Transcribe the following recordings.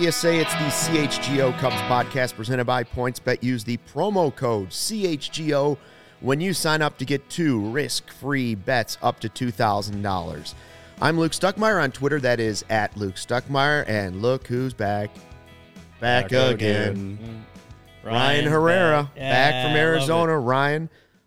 PSA, it's the CHGO Cubs podcast presented by PointsBet. Use the promo code CHGO when you sign up to get 2 risk-free bets up to $2,000. I'm Luke Stuckmeyer on Twitter. That is at Luke Stuckmeyer. And look who's back. Back again. Ryan Herrera. Back from Arizona. Ryan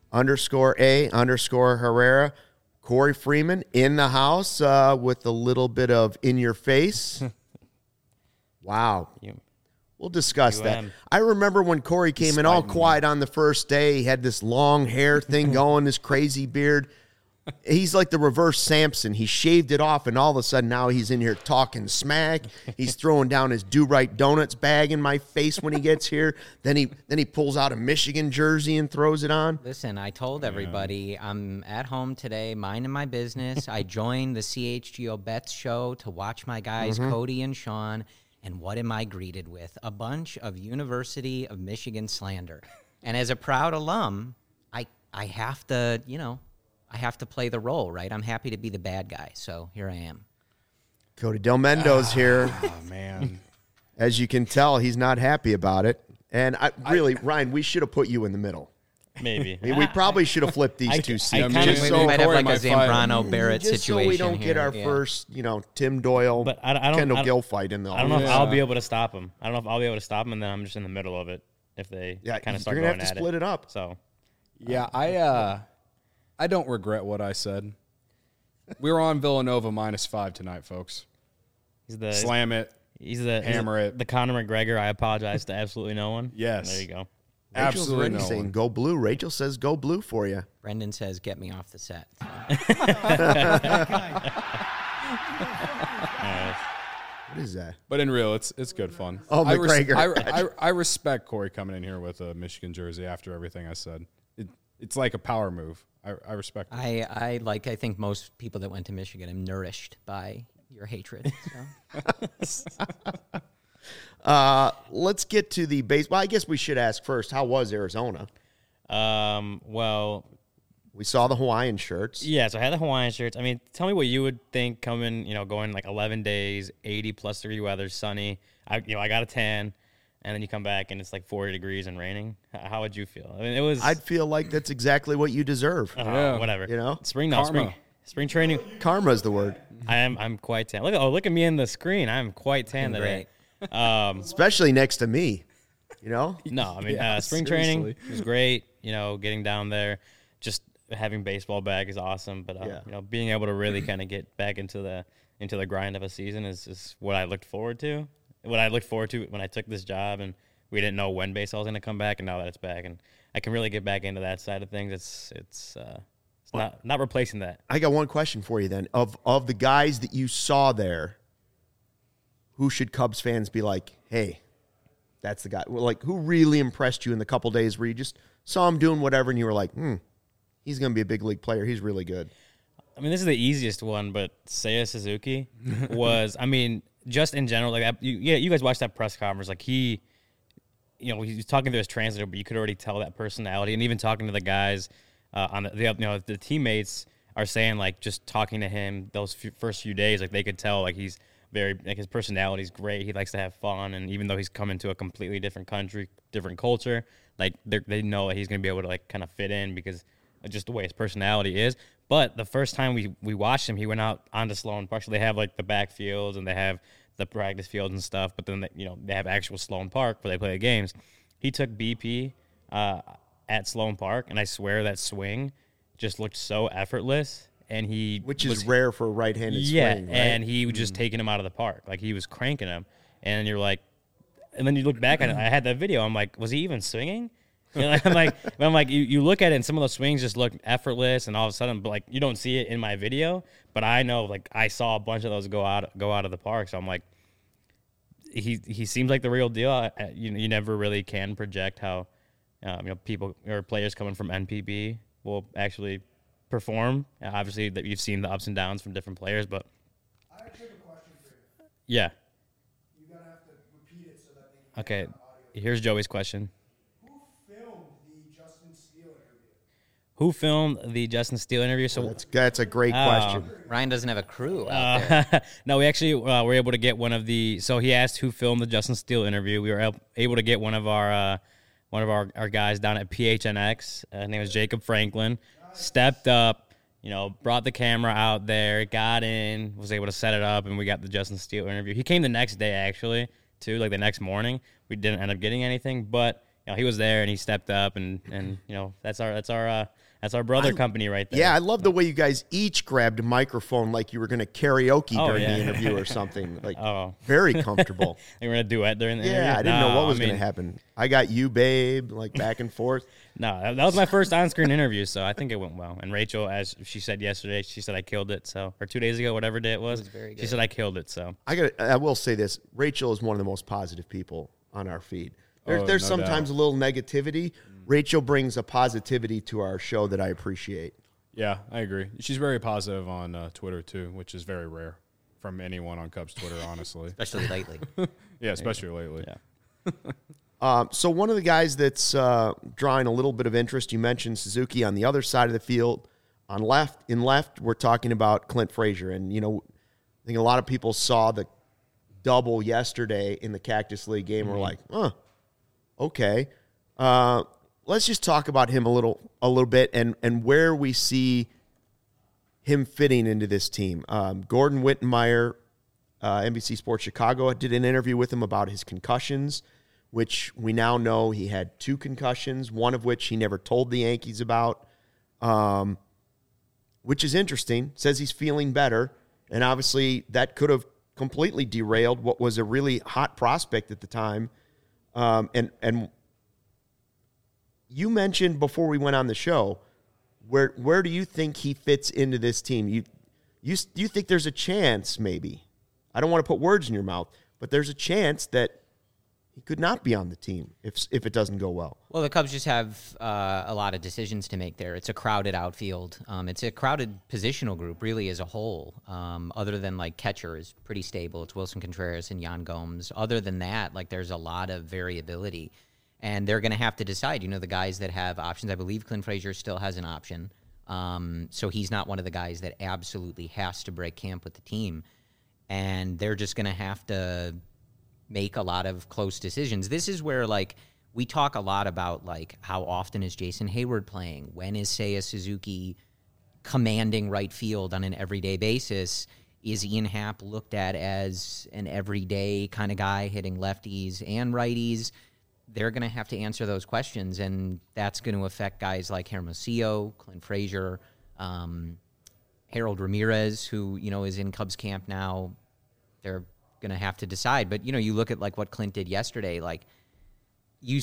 _A_ Herrera. Corey Freeman in the house with a little bit of in your face. Wow. We'll discuss that. I remember when Corey came in all quiet on the first day. He had this long hair thing going, this crazy beard. He's like the reverse Samson. He shaved it off, and all of a sudden now he's in here talking smack. He's throwing down his Do-Right Donuts bag in my face when he gets here. Then he pulls out a Michigan jersey and throws it on. Listen, I told everybody I'm at home today, minding my business. I joined the CHGO Bets show to watch my guys, Cody and Sean, and what am I greeted with? A bunch of University of Michigan slander. And as a proud alum, I have to, I have to play the role, right? I'm happy to be the bad guy, so here I am. Cody Del Mendo's here. Oh, man. As you can tell, he's not happy about it. And Ryan, we should have put you in the middle. Maybe. I mean, we probably should have flipped these two seats. We might have like a Zambrano Barrett just situation so we don't here. get our first, Tim Doyle, but I Kendall Gill fight in the I don't know if I'll be able to stop him. I don't know if I'll be able to stop him, and then I'm just in the middle of it if they kind of start going at it. You're going to have to split it up. So, yeah, I don't regret what I said. We're on Villanova -5 tonight, folks. Slam it. Hammer it. The Conor McGregor. I apologize to absolutely no one. Yes. There you go. Rachel's Absolutely already saying go blue. Rachel says go blue for you. Brendan says get me off the set. What is that? But in real, it's good fun. Oh, McGregor. I respect Corey coming in here with a Michigan jersey after everything I said. It's like a power move. I respect it. I think most people that went to Michigan am nourished by your hatred. So. Let's get to the baseball. I guess we should ask first, how was Arizona? Well, we saw the Hawaiian shirts. Yeah, so I had the Hawaiian shirts. I mean, tell me what you would think coming, going like 11 days, 80+ degree weather, sunny. I got a tan, and then you come back and it's like 40 degrees and raining. How would you feel? I mean, I'd feel like that's exactly what you deserve. Whatever. Spring training. Karma's the word. I'm quite tan. Look at me in the screen. I'm quite tan today. Especially next to me. No, I mean, spring training was great. Getting down there, just having baseball back is awesome. But being able to really kind of get back into the grind of a season is what I looked forward to. What I looked forward to when I took this job, and we didn't know when baseball was going to come back, and now that it's back, and I can really get back into that side of things. It's not replacing that. I got one question for you then. Of the guys that you saw there, who should Cubs fans be like, hey, that's the guy? Like, who really impressed you in the couple days where you just saw him doing whatever and you were like, he's going to be a big league player. He's really good. I mean, this is the easiest one, but Seiya Suzuki was, I mean, just in general, like, you guys watched that press conference. Like, he was talking to his translator, but you could already tell that personality. And even talking to the guys the teammates are saying, like, just talking to him those first few days, like, they could tell, like, he's very, like, his personality is great. He likes to have fun, and even though he's coming to a completely different country, different culture, like, they know that he's going to be able to, like, kind of fit in because of just the way his personality is. But the first time we watched him, he went out onto Sloan Park. So they have, like, the backfields and they have the practice fields and stuff, but then they have actual Sloan Park where they play the games. He took BP at Sloan Park, and I swear that swing just looked so effortless. And which is rare for a right-handed swing, right? And he was just taking him out of the park. Like, he was cranking him. And you're like, and then you look back at it. I had that video. I'm like, was he even swinging? I'm like, you look at it, and some of those swings just look effortless, and all of a sudden, but, like, you don't see it in my video. But I know, like, I saw a bunch of those go out of the park. So I'm like, he seems like the real deal. You never really can project how people or players coming from NPB will actually perform. Obviously, that you've seen the ups and downs from different players, but I actually have a question for you. Yeah. You're gonna have to repeat it so that they can Okay. hear it on audio. Here's Joey's question. Who filmed the Justin Steele interview? Who filmed the Justin Steele interview? So that's a great question. Ryan doesn't have a crew out there. No, we actually were able to get one of the. So he asked who filmed the Justin Steele interview. We were able to get one of our guys down at PHNX. His name was Jacob Franklin. Stepped up, brought the camera out there, got in, was able to set it up, and we got the Justin Steele interview. He came the next day actually, too, like the next morning. We didn't end up getting anything, but he was there and he stepped up, and that's our brother company right there. Yeah, I love the way you guys each grabbed a microphone like you were going to karaoke during the interview or something. Like, very comfortable. They were going to duet during the interview? Yeah, I didn't know what was going to happen. I got you, babe, like back and forth. No, that was my first on-screen interview, so I think it went well. And Rachel, as she said yesterday, she said I killed it. So, or 2 days ago, whatever day it was very good. She said I killed it. So I will say this: Rachel is one of the most positive people on our feed. There's no sometimes doubt. a little negativity. Rachel brings a positivity to our show that I appreciate. Yeah, I agree. She's very positive on Twitter too, which is very rare from anyone on Cubs Twitter, honestly. Especially lately. Yeah, especially lately. Yeah. So one of the guys that's drawing a little bit of interest, you mentioned Suzuki on the other side of the field. In left, we're talking about Clint Frazier. And, I think a lot of people saw the double yesterday in the Cactus League game. We're like, okay. Let's just talk about him a little bit and where we see him fitting into this team. Gordon Wittenmeyer, NBC Sports Chicago, did an interview with him about his concussions, which we now know he had 2 concussions, one of which he never told the Yankees about, which is interesting. Says he's feeling better, and obviously that could have completely derailed what was a really hot prospect at the time. And you mentioned before we went on the show, where do you think he fits into this team? You think there's a chance, maybe? I don't want to put words in your mouth, but there's a chance that he could not be on the team if it doesn't go well. Well, the Cubs just have a lot of decisions to make there. It's a crowded outfield. It's a crowded positional group, really, as a whole. Other than, catcher is pretty stable. It's Wilson Contreras and Yan Gomes. Other than that, there's a lot of variability. And they're going to have to decide, the guys that have options. I believe Clint Frazier still has an option. So he's not one of the guys that absolutely has to break camp with the team. And they're just going to have to make a lot of close decisions. This is where, we talk a lot about, how often is Jason Hayward playing? When is Seiya Suzuki commanding right field on an everyday basis? Is Ian Happ looked at as an everyday kind of guy hitting lefties and righties? They're going to have to answer those questions, and that's going to affect guys like Hermosillo, Clint Frazier, Harold Ramirez, who, is in Cubs camp now. They're going to have to decide. But, you look at, what Clint did yesterday, you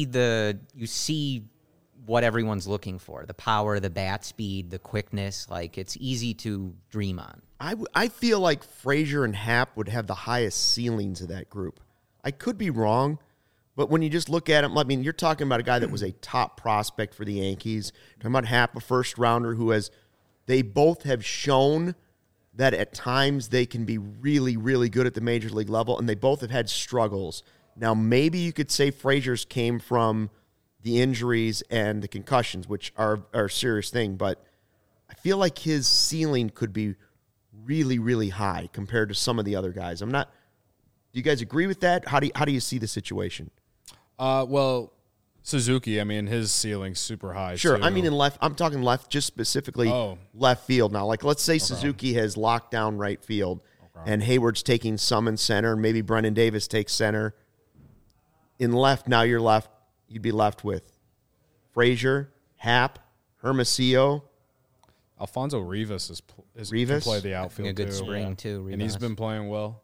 see what everyone's looking for, the power, the bat speed, the quickness. It's easy to dream on. I feel like Frazier and Happ would have the highest ceilings of that group. I could be wrong. But when you just look at him, you're talking about a guy that was a top prospect for the Yankees. Talking about Happ, a first-rounder they both have shown that at times they can be really, really good at the major league level, and they both have had struggles. Now, maybe you could say Frazier's came from the injuries and the concussions, which are a serious thing, but I feel like his ceiling could be really, really high compared to some of the other guys. Do you guys agree with that? How do you see the situation? Well, Suzuki, his ceiling's super high. Sure. Too. In left, I'm talking left, just specifically left field now. Let's say Suzuki has locked down right field and Hayward's taking some in center, and maybe Brendan Davis takes center. In left, now you'd be left with Frazier, Happ, Hermosillo. Alfonso Rivas can play the outfield, a good spring, too. Rivas. And he's been playing well.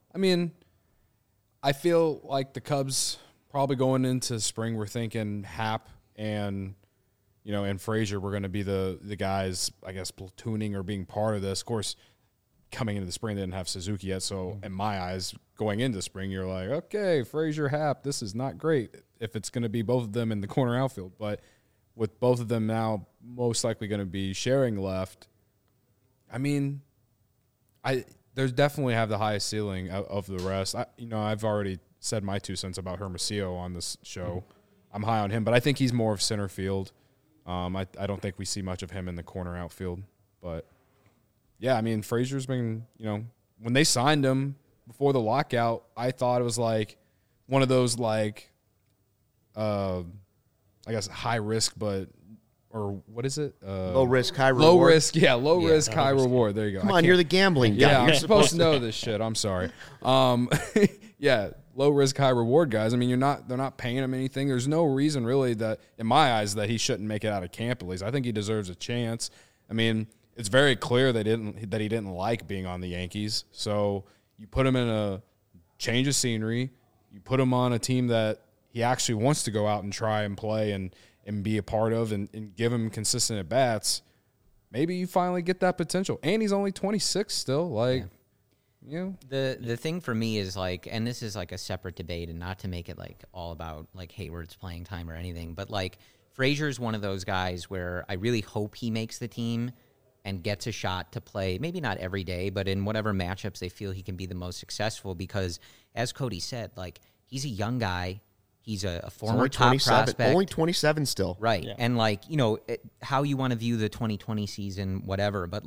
I feel like the Cubs probably going into spring, we're thinking Happ and Frazier were going to be the guys, I guess, platooning or being part of this. Of course, coming into the spring, they didn't have Suzuki yet. So in my eyes, going into spring, you're like, okay, Frazier, Happ, this is not great if it's going to be both of them in the corner outfield. But with both of them now most likely going to be sharing left, there's definitely have the highest ceiling of the rest. I've already said my 2 cents about Hermosillo on this show. I'm high on him, but I think he's more of center field. I don't think we see much of him in the corner outfield. But, yeah, I mean, Frazier's been, when they signed him before the lockout, I thought it was like one of those I guess high risk, or what is it? Low risk, high reward. Low risk, low risk, high reward. There you go. Come on, you're the gambling guy. Yeah, You're I'm supposed to know this shit. I'm sorry. Yeah, low risk, high reward guys. I mean, they're not paying him anything. There's no reason really that, in my eyes, that he shouldn't make it out of camp at least. I think he deserves a chance. I mean, it's very clear that he didn't like being on the Yankees. So you put him in a change of scenery. You put him on a team that he actually wants to go out and try and play and be a part of and give him consistent at-bats. Maybe you finally get that potential. And he's only 26 still. The thing for me is and this is a separate debate, and not to make it all about Hayward's playing time or anything, but Frazier's one of those guys where I really hope he makes the team and gets a shot to play, maybe not every day, but in whatever matchups they feel he can be the most successful, because as Cody said, he's a young guy. He's a former top prospect. Only 27 still. Right. Yeah. And how you want to view the 2020 season, whatever, but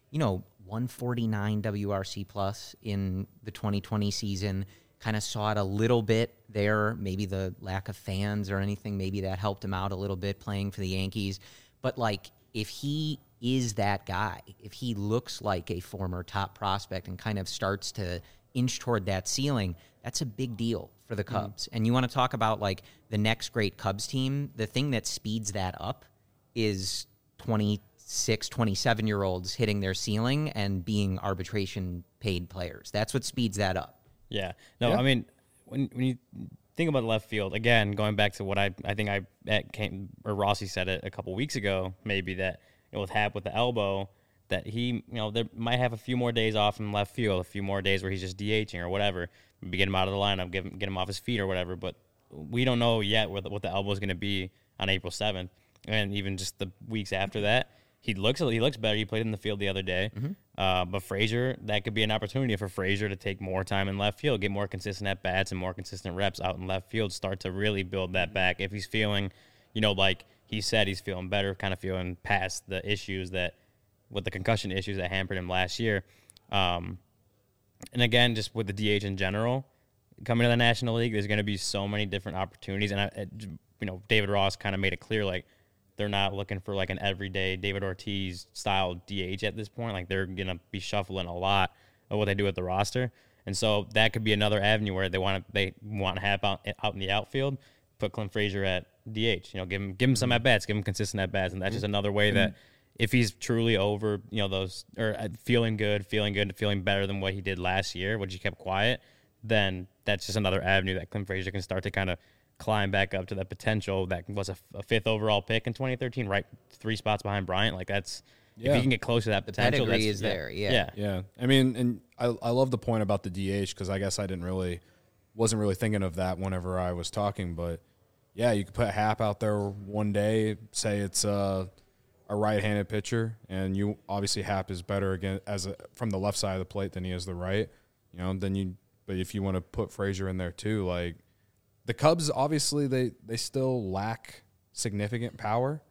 149 WRC plus in the 2020 season, kind of saw it a little bit there. Maybe the lack of fans or anything, maybe that helped him out a little bit playing for the Yankees. But if he is that guy, if he looks like a former top prospect and kind of starts to inch toward that ceiling, that's a big deal for the Cubs. And you want to talk about the next great Cubs team, the thing that speeds that up is 26, 27-year-olds hitting their ceiling and being arbitration paid players. That's what speeds that up. Yeah. No, I mean, when you think about left field, again, going back to what I think Rossi said it a couple weeks ago, maybe that with Happ with the elbow, that he, there might have a few more days off in left field, a few more days where he's just DHing or whatever, maybe get him out of the lineup, get him off his feet or whatever. But we don't know yet what the elbow is going to be on April 7th, and even just the weeks after that. He looks better. He played in the field the other day. Mm-hmm. But Frazier, that could be an opportunity for Frazier to take more time in left field, get more consistent at-bats and more consistent reps out in left field, start to really build that back. If he's feeling, like he said, he's feeling better, kind of feeling past the issues with the concussion issues that hampered him last year. And again, just with the DH in general, coming to the National League, there's going to be so many different opportunities. And, David Ross kind of made it clear, they're not looking for an everyday David Ortiz style DH at this point. They're going to be shuffling a lot of what they do with the roster. And so that could be another avenue where they want to have out in the outfield, put Clint Frazier at DH, give him some at bats, give him consistent at bats. And that's just another way that if he's truly over, those, or feeling good, feeling better than what he did last year, which he kept quiet, then that's just another avenue that Clint Frazier can start to kind of climb back up to that potential that was a 5th overall pick in 2013, right 3 spots behind Bryant. If he can get close to that potential, the pedigree is there. Yeah. I mean, and I love the point about the DH, because I guess I wasn't really thinking of that whenever I was talking, but yeah, you could put Happ out there one day, say it's a right-handed pitcher, and you obviously Happ is better again from the left side of the plate than he is the right, but if you want to put Frazier in there too, the Cubs, obviously, they still lack significant power.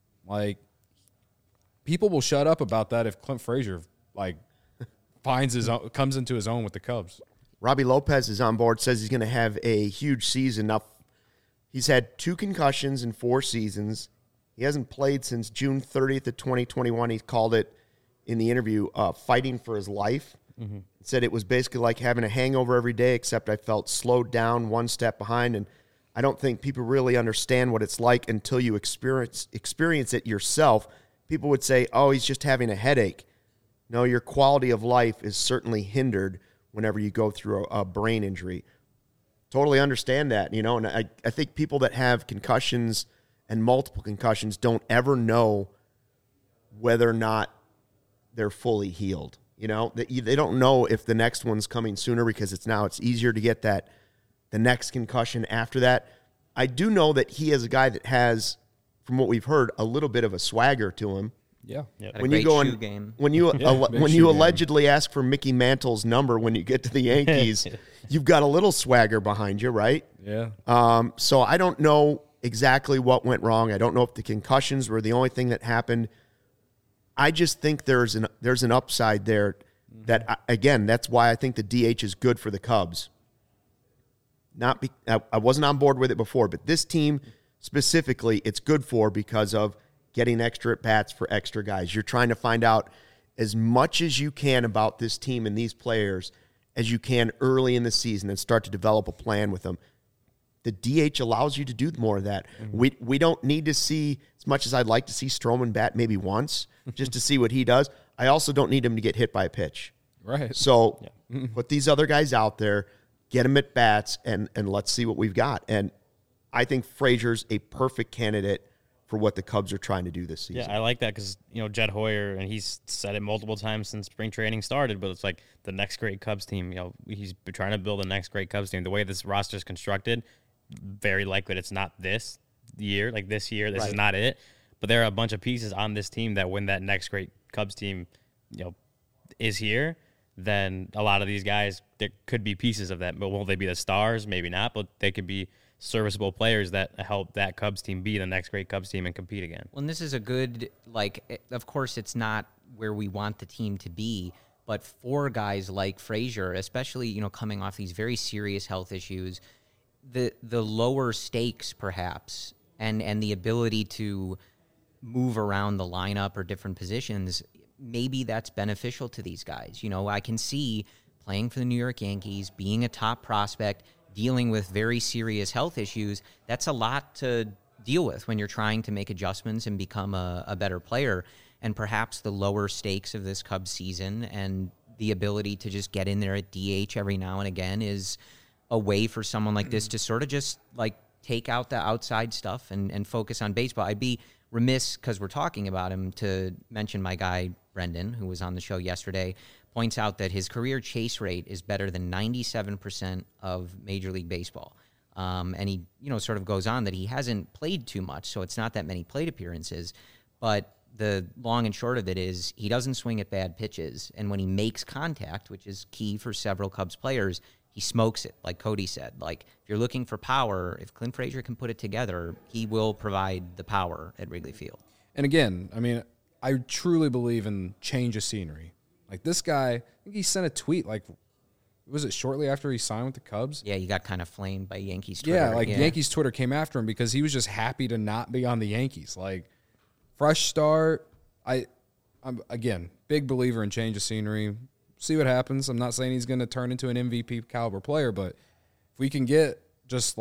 People will shut up about that if Clint Frazier finds his own, comes into his own with the Cubs. Robbie Lopez is on board, says he's going to have a huge season. Now, he's had 2 concussions in 4 seasons. He hasn't played since June 30th of 2021. He called it in the interview fighting for his life. Mm-hmm. Said it was basically like having a hangover every day, except I felt slowed down, one step behind, and I don't think people really understand what it's like until you experience it yourself. People would say, oh, he's just having a headache. No, your quality of life is certainly hindered whenever you go through a brain injury. Totally understand that, and I think people that have concussions and multiple concussions don't ever know whether or not they're fully healed. They don't know if the next one's coming sooner, because it's easier to get the next concussion after that. I do know that he is a guy that has, from what we've heard, a little bit of a swagger to him. Yeah. Yep. When you go in, when you allegedly ask for Mickey Mantle's number when you get to the Yankees, you've got a little swagger behind you, right? Yeah. So I don't know exactly what went wrong. I don't know if the concussions were the only thing that happened. I just think there's an upside there that, again, that's why I think the DH is good for the Cubs. I wasn't on board with it before, but this team specifically, it's good for because of getting extra at-bats for extra guys. You're trying to find out as much as you can about this team and these players as you can early in the season and start to develop a plan with them. The DH allows you to do more of that. Mm-hmm. We don't need to see, as much as I'd like to see Stroman bat maybe once just to see what he does, I also don't need him to get hit by a pitch. Right. So put these other guys out there, get them at bats, and let's see what we've got. And I think Frazier's a perfect candidate for what the Cubs are trying to do this season. Yeah, I like that because, Jed Hoyer, and he's said it multiple times since spring training started, but it's like the next great Cubs team. He's trying to build the next great Cubs team. The way this roster is constructed, very likely it's not this year. Like this year, this is not it. But there are a bunch of pieces on this team that when that next great Cubs team, is here, then a lot of these guys, there could be pieces of that. But will they be the stars? Maybe not, but they could be serviceable players that help that Cubs team be the next great Cubs team and compete again. Well, and this is a good, of course, it's not where we want the team to be, but for guys like Frazier, especially, coming off these very serious health issues, the lower stakes, perhaps, and the ability to move around the lineup or different positions, maybe that's beneficial to these guys. I can see playing for the New York Yankees, being a top prospect, dealing with very serious health issues. That's a lot to deal with when you're trying to make adjustments and become a better player. And perhaps the lower stakes of this Cubs season and the ability to just get in there at DH every now and again is a way for someone like this to sort of just take out the outside stuff and focus on baseball. I'd be remiss, because we're talking about him, to mention my guy Brendan, who was on the show yesterday, points out that his career chase rate is better than 97% of Major League Baseball. And he, sort of goes on that he hasn't played too much, so it's not that many plate appearances. But the long and short of it is he doesn't swing at bad pitches. And when he makes contact, which is key for several Cubs players, he smokes it, like Cody said. If you're looking for power, if Clint Frazier can put it together, he will provide the power at Wrigley Field. And again, I truly believe in change of scenery. This guy, I think he sent a tweet, was it shortly after he signed with the Cubs? Yeah, he got kind of flamed by Yankees Twitter. Yeah, Yankees Twitter came after him because he was just happy to not be on the Yankees. Fresh start. I'm, again, big believer in change of scenery. See what happens. I'm not saying he's going to turn into an MVP caliber player, but if we can get just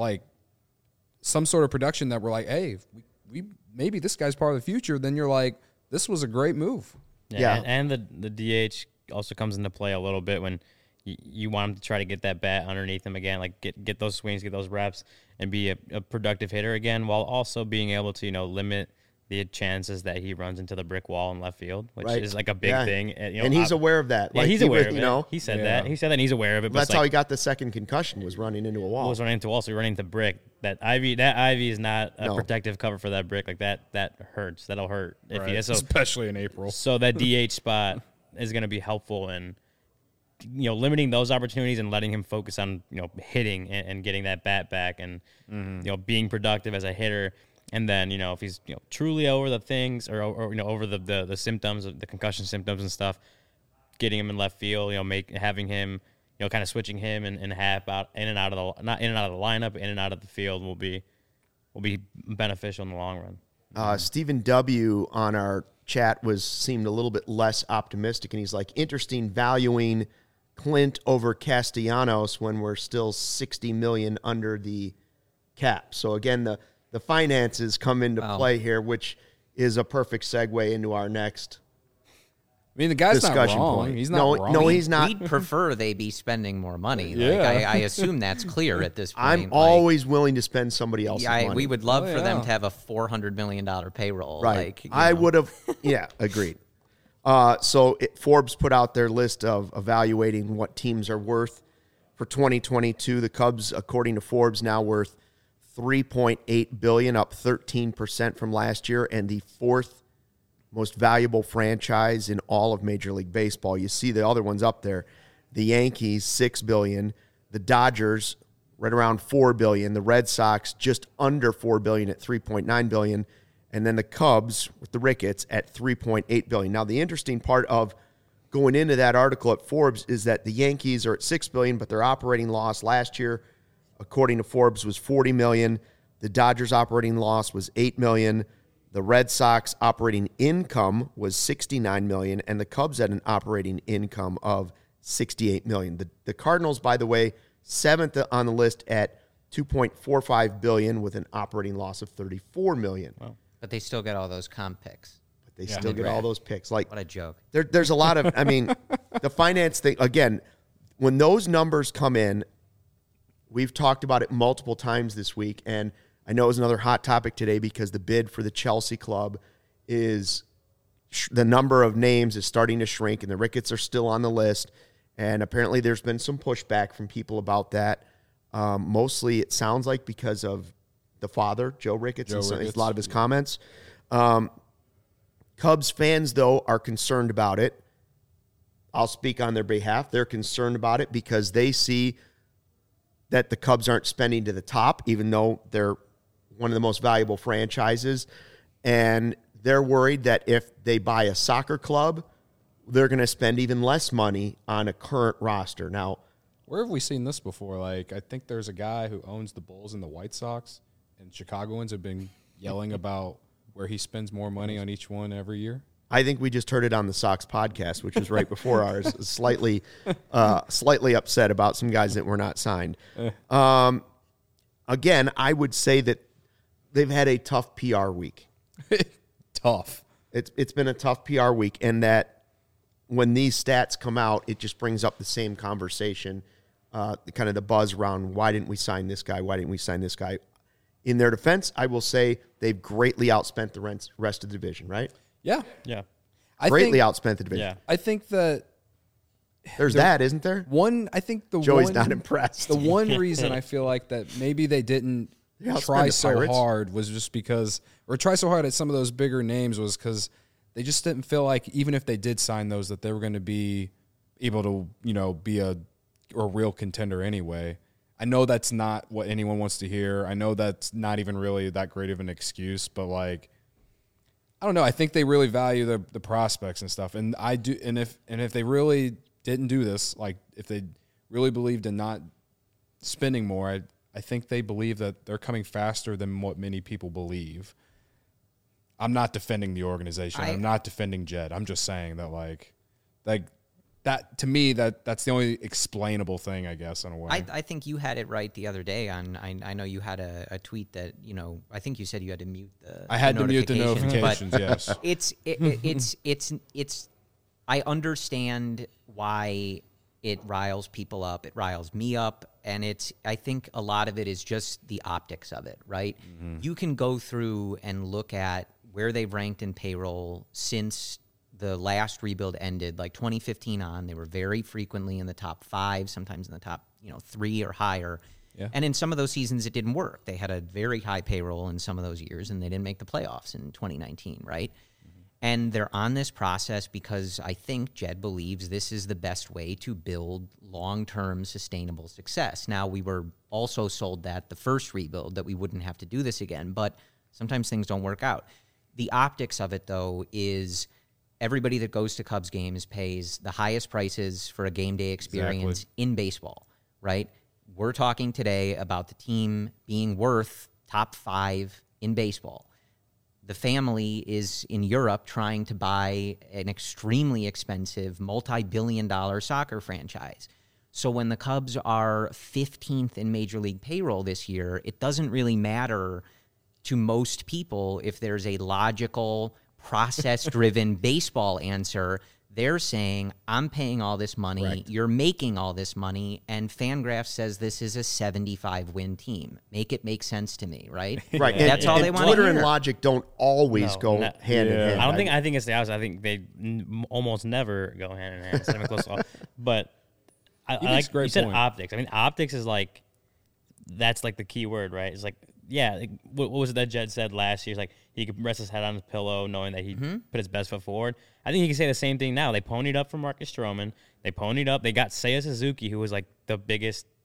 some sort of production that we're hey, we maybe this guy's part of the future, then you're this was a great move. Yeah. And the DH also comes into play a little bit when you want him to try to get that bat underneath him again, get those swings, get those reps, and be a productive hitter again, while also being able to limit the chances that he runs into the brick wall in left field, which is a big thing. And he's aware of that. Yeah, he's aware of it. He said that. He said that, and he's aware of it. But that's how he got the second concussion, was running into a wall. Was running into a wall, so running into brick. That ivy is not a protective cover for that brick. That hurts. That'll hurt. Right. Especially in April. So that DH spot is going to be helpful in limiting those opportunities and letting him focus on hitting and getting that bat back and being productive as a hitter. And then, if he's truly over the things or over the symptoms, of the concussion symptoms and stuff, getting him in left field, having him, kind of switching him and half out in and out of the lineup, in and out of the field will be beneficial in the long run. Stephen W. on our chat seemed a little bit less optimistic, and he's interesting valuing Clint over Castellanos when we're still $60 million under the cap. So again, the finances come into play here, which is a perfect segue into our next the guy's discussion not wrong. point. He's not wrong. No, he's not. We'd prefer they be spending more money. Yeah. I assume that's clear at this point. I'm always willing to spend somebody else's money. We would love for them to have a $400 million payroll. Right. I would have, agreed. Forbes put out their list of evaluating what teams are worth for 2022. The Cubs, according to Forbes, now worth $3.8 billion, up 13% from last year, and the fourth most valuable franchise in all of Major League Baseball. You see the other ones up there. The Yankees, $6 billion. The Dodgers, right around $4 billion. The Red Sox just under $4 billion at $3.9 billion. And then the Cubs with the Ricketts at $3.8 billion. Now, the interesting part of going into that article at Forbes is that the Yankees are at $6 billion, but their operating loss last year, according to Forbes, was $40 million. The Dodgers' operating loss was $8 million. The Red Sox operating income was $69 million, and the Cubs had an operating income of $68 million. The Cardinals, by the way, seventh on the list at $2.45 billion with an operating loss of $34 million. Wow. But they still get all those comp picks. But they still get all those picks. Like, what a joke. There's a lot of, I mean, the finance thing, again, when those numbers come in, we've talked about it multiple times this week, and I know it was another hot topic today because the bid for the Chelsea club is, the number of names is starting to shrink, and the Ricketts are still on the list, and apparently there's been some pushback from people about that. Mostly it sounds like because of the father, Joe Ricketts, and a lot of his comments. Cubs fans, though, are concerned about it. I'll speak on their behalf. They're concerned about it because they see that the Cubs aren't spending to the top, even though they're one of the most valuable franchises. And they're worried that if they buy a soccer club, they're going to spend even less money on a current roster. Now, where have we seen this before? Like, I think there's a guy who owns the Bulls and the White Sox, and Chicagoans have been yelling about where he spends more money on each one every year. I think we just heard it on the Sox podcast, which was right before ours, slightly upset about some guys that were not signed. Again, I would say that they've had a tough PR week. Tough. It's been a tough PR week, and that when these stats come out, it just brings up the same conversation, kind of the buzz around why didn't we sign this guy? Why didn't we sign this guy? In their defense, I will say they've greatly outspent the rest of the division, right? Yeah. Yeah. Greatly outspent the division. Yeah. I think that there's that, isn't there? Joey's not impressed. The one reason I feel like that maybe they didn't try so hard was just because, or try so hard at some of those bigger names was because they just didn't feel like even if they did sign those that they were going to be able to, be a real contender anyway. I know that's not what anyone wants to hear. I know that's not even really that great of an excuse, but like, I don't know. I think they really value the prospects and stuff. And I do. And if they really didn't do this, like if they really believed in not spending more, I think they believe that they're coming faster than what many people believe. I'm not defending the organization. I'm not defending Jed. I'm just saying that like that to me that's the only explainable thing, I guess, in a way. I think you had it right the other day on. I know you had a tweet that I think you said you had to mute the. I had to mute the notifications. Yes, it's. I understand why it riles people up. It riles me up, and I think a lot of it is just the optics of it, right? Mm-hmm. You can go through and look at where they've ranked in payroll since the last rebuild ended, like 2015 on. They were very frequently in the top 5, sometimes in the top 3 or higher. Yeah. And in some of those seasons, it didn't work. They had a very high payroll in some of those years, and they didn't make the playoffs in 2019, right? Mm-hmm. And they're on this process because I think Jed believes this is the best way to build long-term sustainable success. Now, we were also sold that the first rebuild, that we wouldn't have to do this again, but sometimes things don't work out. The optics of it, though, is everybody that goes to Cubs games pays the highest prices for a game day experience in baseball, right? We're talking today about the team being worth top 5 in baseball. The family is in Europe trying to buy an extremely expensive, multi-billion-dollar soccer franchise. So when the Cubs are 15th in Major League payroll this year, it doesn't really matter to most people if there's a logical, process-driven baseball answer. They're saying, I'm paying all this money, right. You're making all this money, and Fangraphs says this is a 75-win team. Make it make sense to me, right? Right. That's all they want to hear. Twitter and logic don't always go hand in hand. I think it's the opposite. I think they almost never go hand in hand. It's not even close to all. But I like you said optics. I mean, optics is like, that's like the key word, right? It's like, yeah, like, what was it that Jed said last year? It's like he could rest his head on his pillow knowing that he put his best foot forward. I think he can say the same thing now. They ponied up for Marcus Stroman. They ponied up. They got Seiya Suzuki, who was like the biggest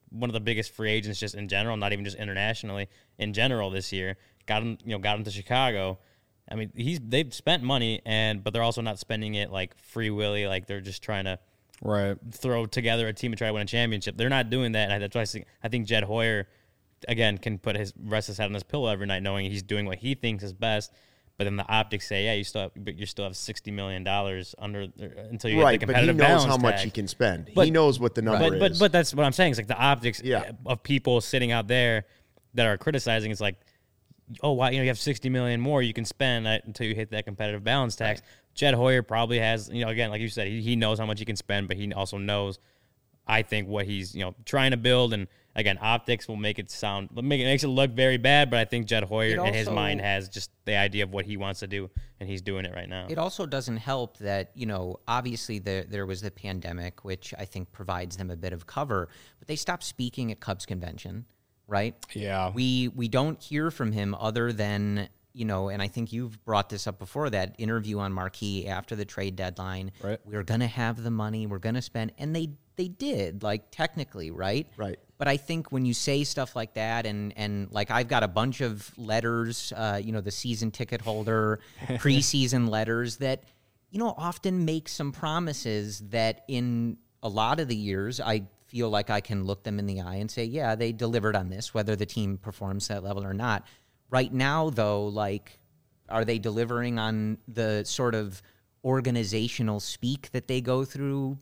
one of the biggest free agents just in general, not even just internationally, in general this year. Got him to Chicago. I mean, they've spent money, but they're also not spending it like free willy, like they're just trying to throw together a team and try to win a championship. They're not doing that. And that's why I think Jed Hoyer, again, can rest his head on his pillow every night knowing he's doing what he thinks is best. But then the optics say, yeah, you still have $60 million under until you get the competitive balance but he knows how much tag. He can spend. He knows what the number is. But that's what I'm saying. It's like the optics of people sitting out there that are criticizing. It's like, oh, wow, you have $60 million more you can spend until you hit that competitive balance tax. Right. Jed Hoyer probably has, again, like you said, he knows how much he can spend, but he also knows, I think, what he's trying to build. And again, optics will makes it look very bad, but I think Jed Hoyer in his mind has just the idea of what he wants to do, and he's doing it right now. It also doesn't help that, obviously there was the pandemic, which I think provides them a bit of cover, but they stopped speaking at Cubs convention. Right? Yeah. We don't hear from him other than, and I think you've brought this up before, that interview on Marquee after the trade deadline. Right. We're going to have the money. We're going to spend. And they did, like, technically, right? Right. But I think when you say stuff like that, and like I've got a bunch of letters, the season ticket holder, preseason letters that, often make some promises that in a lot of the years I feel like I can look them in the eye and say, yeah, they delivered on this, whether the team performs that level or not. Right now, though, like, are they delivering on the sort of organizational speak that they go through?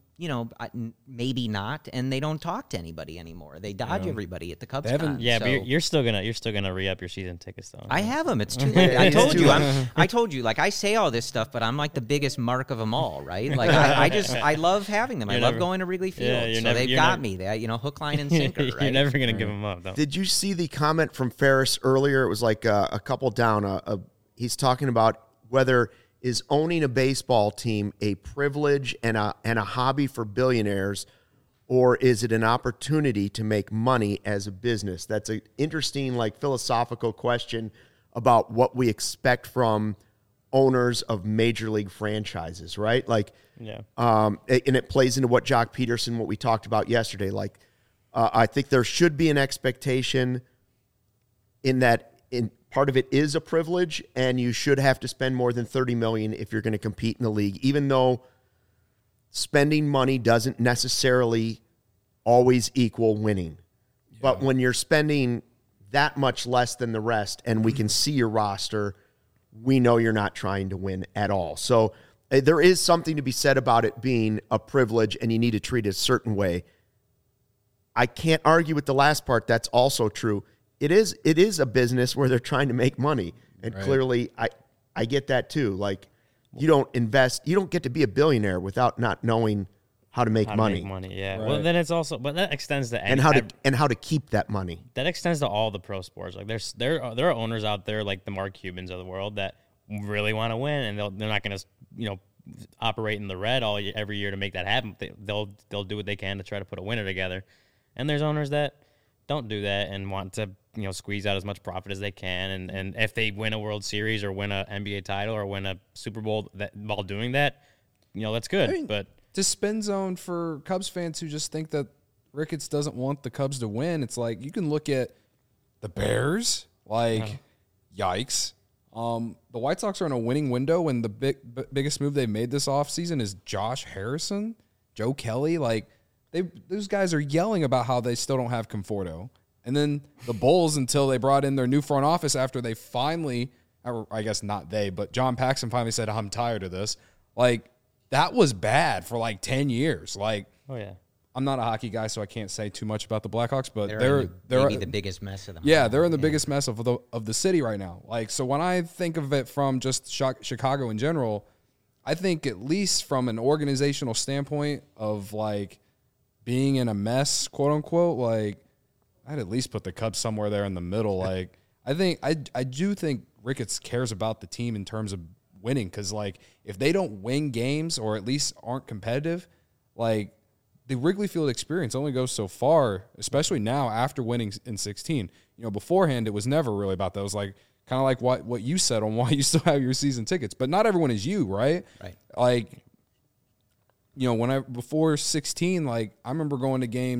Maybe not, and they don't talk to anybody anymore. They dodge everybody at the Cubs. Yeah, so. But you're still gonna re-up your season tickets, though. I have them. It's too late. I told you. Like, I say all this stuff, but I'm like the biggest mark of them all, right? Like, I love having them. I love going to Wrigley Field. Yeah, so they've got me. They, hook, line, and sinker. Right? You're never gonna give them up, though. Did you see the comment from Ferris earlier? It was like a couple down. He's talking about whether is owning a baseball team a privilege and a hobby for billionaires, or is it an opportunity to make money as a business? That's an interesting, like, philosophical question about what we expect from owners of major league franchises, right? Like, and it plays into what Jock Peterson, what we talked about yesterday. Like, I think there should be an expectation in that part of it is a privilege, and you should have to spend more than $30 million if you're going to compete in the league, even though spending money doesn't necessarily always equal winning. Yeah. But when you're spending that much less than the rest, and we can see your roster, we know you're not trying to win at all. So there is something to be said about it being a privilege, and you need to treat it a certain way. I can't argue with the last part. That's also true. It is a business where they're trying to make money. And clearly I get that too. Like, you don't get to be a billionaire without not knowing how to make money. Yeah. Right. Well, then it's also, but that extends to and how to keep that money. That extends to all the pro sports. Like, there are owners out there like the Mark Cubans of the world that really want to win, and they're not going to operate in the red every year to make that happen. They'll do what they can to try to put a winner together. And there's owners that don't do that and want to squeeze out as much profit as they can, and if they win a World Series or win an NBA title or win a Super Bowl while doing that, that's good. I mean, but to spin zone for Cubs fans who just think that Ricketts doesn't want the Cubs to win, it's like you can look at the Bears, like yikes. The White Sox are in a winning window, and the biggest move they made this offseason is Josh Harrison, Joe Kelly. Like, those guys are yelling about how they still don't have Conforto. And then the Bulls, until they brought in their new front office after they finally, or I guess not they, but John Paxson finally said, I'm tired of this. Like, that was bad for like 10 years. Like, oh yeah, I'm not a hockey guy, so I can't say too much about the Blackhawks, but they're the biggest mess of them. Yeah, they're in the biggest mess of the city right now. Like, so when I think of it from just Chicago in general, I think at least from an organizational standpoint of like being in a mess, quote unquote, like, I'd at least put the Cubs somewhere there in the middle. Like, I do think Ricketts cares about the team in terms of winning, because like if they don't win games or at least aren't competitive, like the Wrigley Field experience only goes so far, especially now after winning in 16. Beforehand it was never really about that. It was like kind of like what you said on why you still have your season tickets, but not everyone is you, right? Right. Like, before 16, like I remember going to games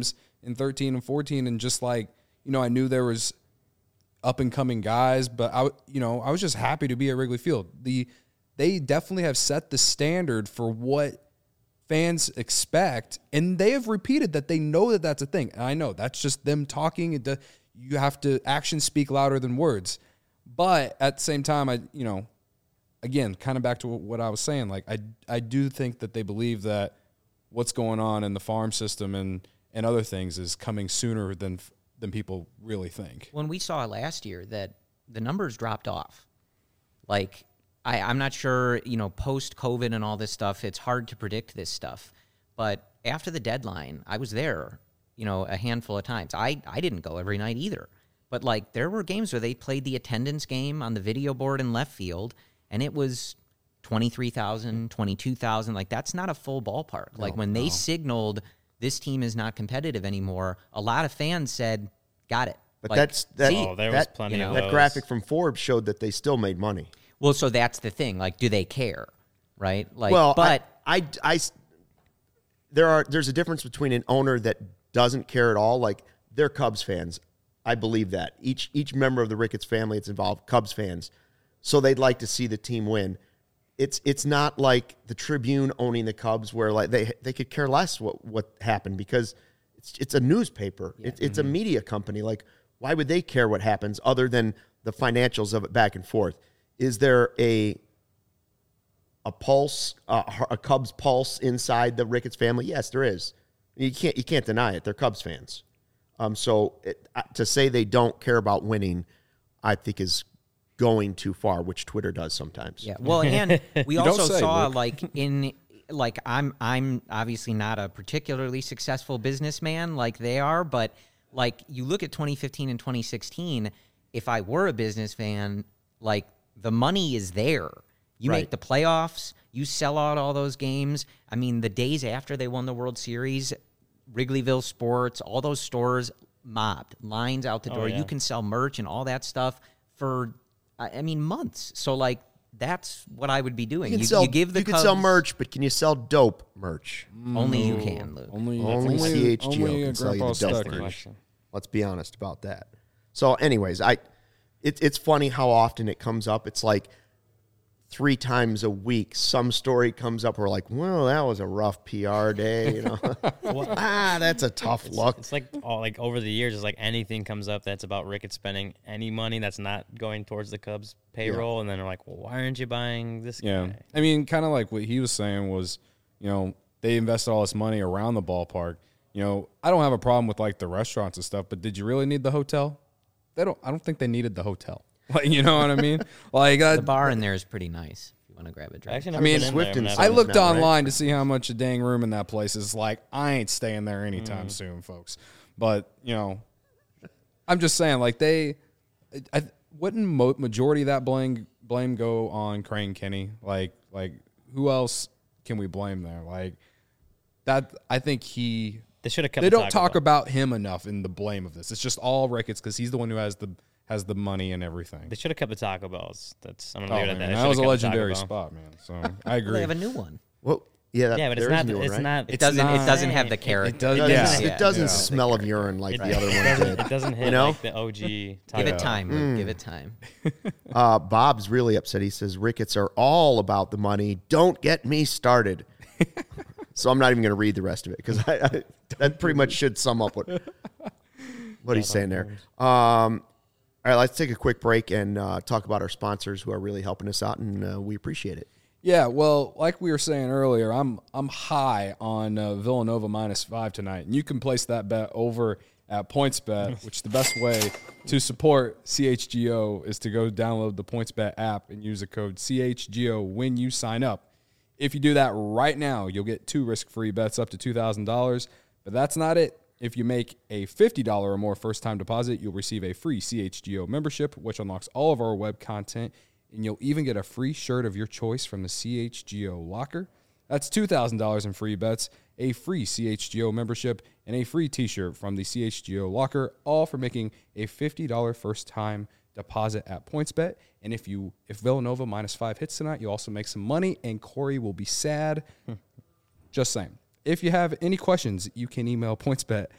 in 13 and 14, and just like, I knew there was up and coming guys, but I was just happy to be at Wrigley Field. They definitely have set the standard for what fans expect, and they have repeated that they know that that's a thing. And I know that's just them talking. You have to actions speak louder than words. But at the same time, again, kind of back to what I was saying, like I do think that they believe that what's going on in the farm system and other things is coming sooner than people really think. When we saw last year that the numbers dropped off, like I'm not sure, post-COVID and all this stuff, it's hard to predict this stuff. But after the deadline, I was there, a handful of times. I didn't go every night either. But, like, there were games where they played the attendance game on the video board in left field, and it was 23,000, 22,000. Like, that's not a full ballpark. They signaled this team is not competitive anymore, a lot of fans said, got it. But there was plenty of those. That graphic from Forbes showed that they still made money. Well, so that's the thing. Like, do they care, right? Like, well, but there's a difference between an owner that doesn't care at all. Like, they're Cubs fans. I believe that each member of the Ricketts family that's involved, Cubs fans, so they'd like to see the team win. It's not like the Tribune owning the Cubs, where like they could care less what happened, because it's a newspaper. Yeah. It's a media company. Like, why would they care what happens other than the financials of it back and forth? Is there a pulse, a Cubs pulse inside the Ricketts family? Yes, there is. You can't deny it. They're Cubs fans. To say they don't care about winning, I think is going too far, which Twitter does sometimes. Yeah. Well, and we also saw I'm obviously not a particularly successful businessman like they are, but like you look at 2015 and 2016, if I were a business fan, like the money is there. You make the playoffs, you sell out all those games. I mean, the days after they won the World Series, Wrigleyville Sports, all those stores mobbed, lines out the door. You can sell merch and all that stuff for, months. So, like, that's what I would be doing. You can sell merch, but can you sell dope merch? Only you can, Luke. Only CHGO can sell you the dope merch. Let's be honest about that. So, anyways, it's funny how often it comes up. It's like 3 times a week, some story comes up. We're like, well, that was a rough PR day, that's a tough look. It's like over the years, it's like anything comes up that's about Ricketts spending any money that's not going towards the Cubs payroll, and then they're like, well, why aren't you buying this guy? Yeah, I mean, kind of like what he was saying was, they invested all this money around the ballpark. I don't have a problem with like the restaurants and stuff, but did you really need the hotel? I don't think they needed the hotel. Like, you know what I mean? Like the bar in there is pretty nice if you want to grab a drink. I looked online to see how much a dang room in that place is. Like, I ain't staying there anytime soon, folks. But I'm just saying, like wouldn't majority of that blame go on Crane Kenny? Like who else can we blame there? Like that, I think they should have kept. They don't talk about him enough in the blame of this. It's just all Ricketts because he's the one who has the money and everything. They should have kept the Taco Bells. I'm gonna leave it at that. That was a legendary spot, man. So I agree. They have a new one. Well, yeah, but it's not. It's not. It doesn't have the character. It doesn't smell of urine like the other one did. It doesn't hit like the OG. Taco. Give it time. Luke. Give it time. Bob's really upset. He says Ricketts are all about the money. Don't get me started. So I'm not even going to read the rest of it because that pretty much should sum up what he's saying there. All right, let's take a quick break and talk about our sponsors who are really helping us out, and we appreciate it. Yeah, well, like we were saying earlier, I'm high on Villanova -5 tonight, and you can place that bet over at PointsBet, which the best way to support CHGO is to go download the PointsBet app and use the code CHGO when you sign up. If you do that right now, you'll get 2 risk-free bets up to $2,000, but that's not it. If you make a $50 or more first-time deposit, you'll receive a free CHGO membership, which unlocks all of our web content, and you'll even get a free shirt of your choice from the CHGO locker. That's $2,000 in free bets, a free CHGO membership, and a free t-shirt from the CHGO locker, all for making a $50 first-time deposit at PointsBet. And if Villanova -5 hits tonight, you also make some money, and Corey will be sad. Just saying. If you have any questions, you can email PointsBet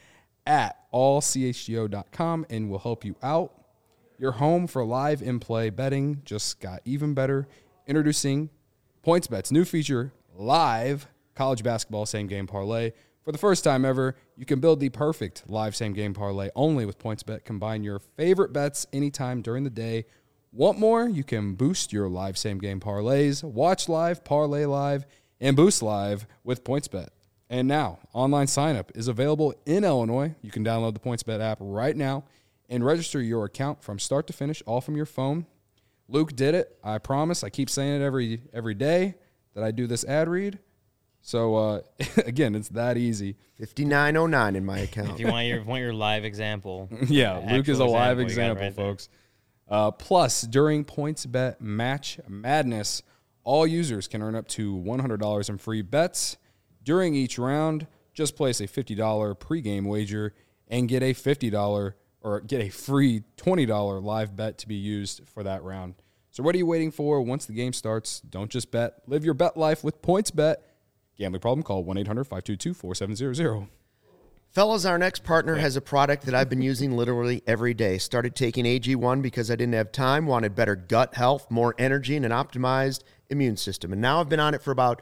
at allchgo.com and we'll help you out. Your home for live in-play betting just got even better. Introducing PointsBet's new feature, Live College Basketball Same Game Parlay. For the first time ever, you can build the perfect live same game parlay only with PointsBet. Combine your favorite bets anytime during the day. Want more? You can boost your live same game parlays, watch live, parlay live, and boost live with PointsBet. And now, online sign-up is available in Illinois. You can download the PointsBet app right now and register your account from start to finish, all from your phone. Luke did it. I promise. I keep saying it every day that I do this ad read. So, again, it's that easy. 5909 in my account. If you want your live example. Yeah, Luke is a live example example, folks. Plus, during PointsBet Match Madness, all users can earn up to $100 in free bets. During each round, just place a $50 pregame wager and get a $50 or get a free $20 live bet to be used for that round. So what are you waiting for? Once the game starts, don't just bet. Live your bet life with PointsBet. Gambling problem? Call 1-800-522-4700. Fellas, our next partner has a product that I've been using literally every day. Started taking AG1 because I didn't have time, wanted better gut health, more energy, and an optimized immune system. And now I've been on it for about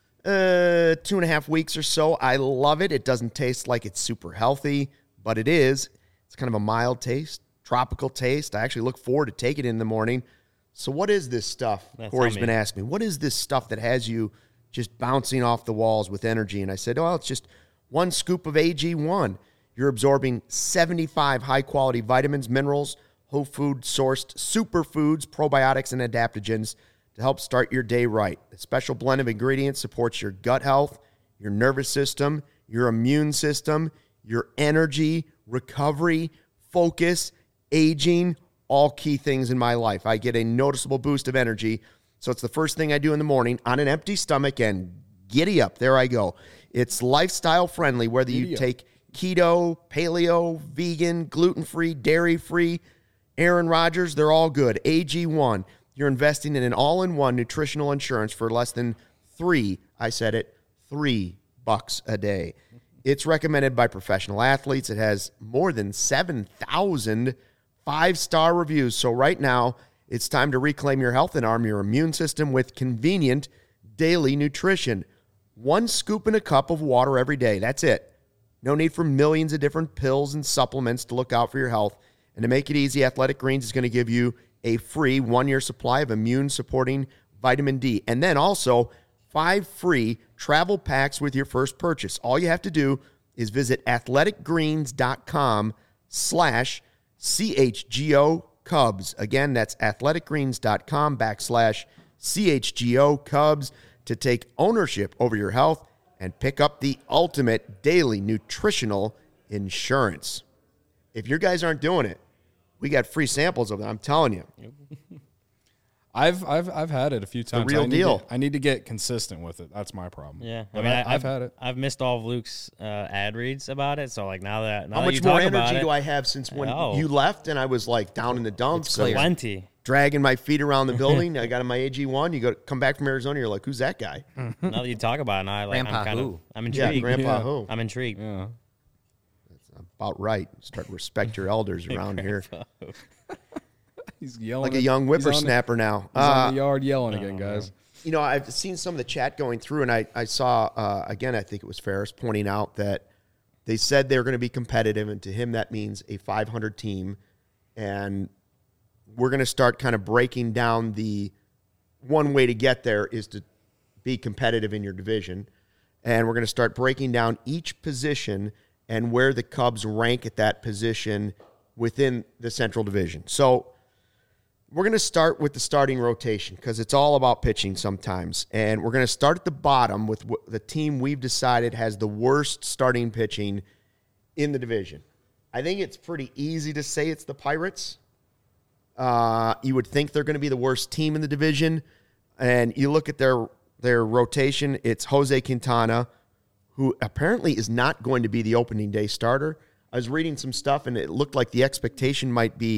2.5 weeks or so. I love it. It doesn't taste like it's super healthy, but it is. It's kind of a mild taste, tropical taste. I actually look forward to taking it in the morning. So what is this stuff? Corey's been asking me. What is this stuff that has you just bouncing off the walls with energy? And I said, oh, it's just one scoop of AG1. You're absorbing 75 high-quality vitamins, minerals, whole food-sourced superfoods, probiotics, and adaptogens to help start your day right. The special blend of ingredients supports your gut health, your nervous system, your immune system, your energy, recovery, focus, aging, all key things in my life. I get a noticeable boost of energy. So it's the first thing I do in the morning on an empty stomach, and giddy up. There I go. It's lifestyle friendly, whether you take keto, paleo, vegan, gluten-free, dairy-free, Aaron Rodgers, they're all good. AG1, you're investing in an all-in-one nutritional insurance for less than $3 a day. It's recommended by professional athletes. It has more than 7,000 5-star reviews. So right now, it's time to reclaim your health and arm your immune system with convenient daily nutrition. 1 scoop in a cup of water every day. That's it. No need for millions of different pills and supplements to look out for your health. And to make it easy, Athletic Greens is going to give you a free 1-year supply of immune-supporting vitamin D. And then also 5 free travel packs with your first purchase. All you have to do is visit athleticgreens.com/CHGO Cubs. Again, that's athleticgreens.com/CHGO Cubs to take ownership over your health and pick up the ultimate daily nutritional insurance. If your guys aren't doing it, we got free samples of it. I'm telling you. I've had it a few times. The real deal. I need to get consistent with it. That's my problem. Yeah, I mean, I've had it. I've missed all of Luke's ad reads about it. So like now how much more energy do I have since when you left and I was like down in the dumps? It's plenty. Dragging my feet around the building. I got on my AG1. You come back from Arizona. You're like, who's that guy? Now that you talk about it, now I'm intrigued. Yeah, Grandpa who? I'm intrigued. Yeah. That's about right. Start to respect your elders around here. He's yelling like a young whippersnapper now. He's on the yard yelling again, guys. You know, I've seen some of the chat going through, and I saw, again, I think it was Ferris pointing out that they said they were going to be competitive, and to him that means a 500 team. And we're going to start kind of breaking down the one way to get there is to be competitive in your division. And we're going to start breaking down each position and where the Cubs rank at that position within the Central Division. So we're going to start with the starting rotation because it's all about pitching sometimes. And we're going to start at the bottom with the team we've decided has the worst starting pitching in the division. I think it's pretty easy to say it's the Pirates. You would think they're going to be the worst team in the division. And you look at their rotation, it's Jose Quintana, who apparently is not going to be the opening day starter. I was reading some stuff, and it looked like the expectation might be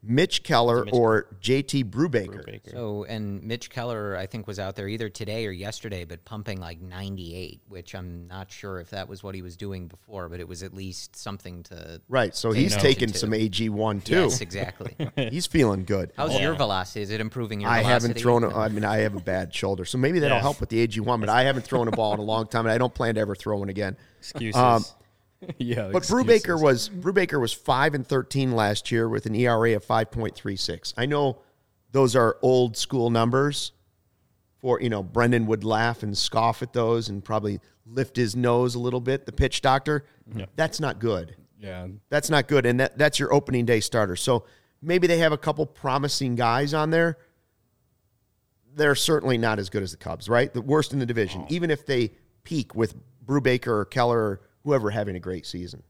Mitch Keller or JT Brubaker. So, and Mitch Keller, I think, was out there either today or yesterday, but pumping like 98, which I'm not sure if that was what he was doing before, but it was at least something to. Right. So he's taking some AG1 too. Yes, exactly. He's feeling good. How's your velocity? Is it improving your velocity? I haven't thrown I have a bad shoulder, so maybe that'll help with the AG1, but I haven't thrown a ball in a long time, and I don't plan to ever throw one again. Excuses. Yeah, but Brubaker was 5-13 last year with an ERA of 5.36. I know those are old school numbers. For Brendan would laugh and scoff at those and probably lift his nose a little bit. The pitch doctor, that's not good. Yeah, that's not good, and that's your opening day starter. So maybe they have a couple promising guys on there. They're certainly not as good as the Cubs, right? The worst in the division, even if they peak with Brubaker or Keller or whoever having a great season.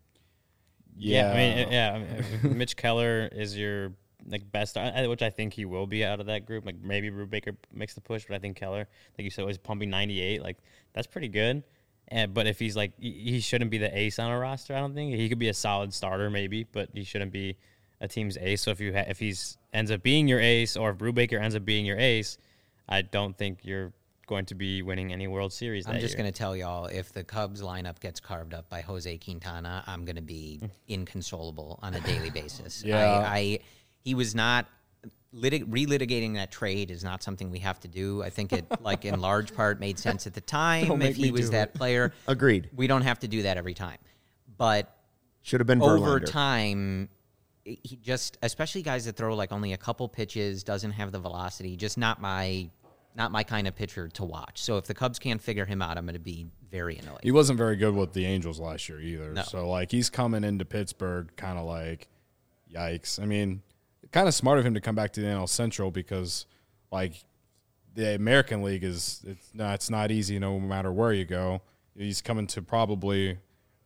I mean, Mitch Keller is your best, which I think he will be out of that group. Like maybe Brubaker makes the push, but I think Keller, like you said, was pumping 98. Like that's pretty good. But if he's he shouldn't be the ace on a roster. I don't think he could be a solid starter maybe, but he shouldn't be a team's ace. So if he's ends up being your ace, or if Brubaker ends up being your ace, I don't think you're going to be winning any World Series. I'm just going to tell y'all, if the Cubs lineup gets carved up by Jose Quintana, I'm going to be inconsolable on a daily basis. Yeah. He was not relitigating that trade is not something we have to do. I think it in large part made sense at the time if he was that player. Agreed. We don't have to do that every time, but should have been over Verlander. Time. He just, especially guys that throw only a couple pitches, doesn't have the velocity, just not my kind of pitcher to watch. So if the Cubs can't figure him out, I'm going to be very annoyed. He wasn't very good with the Angels last year either. No. So, he's coming into Pittsburgh kind of yikes. I mean, kind of smart of him to come back to the NL Central because, the American League it's not easy no matter where you go. He's coming to probably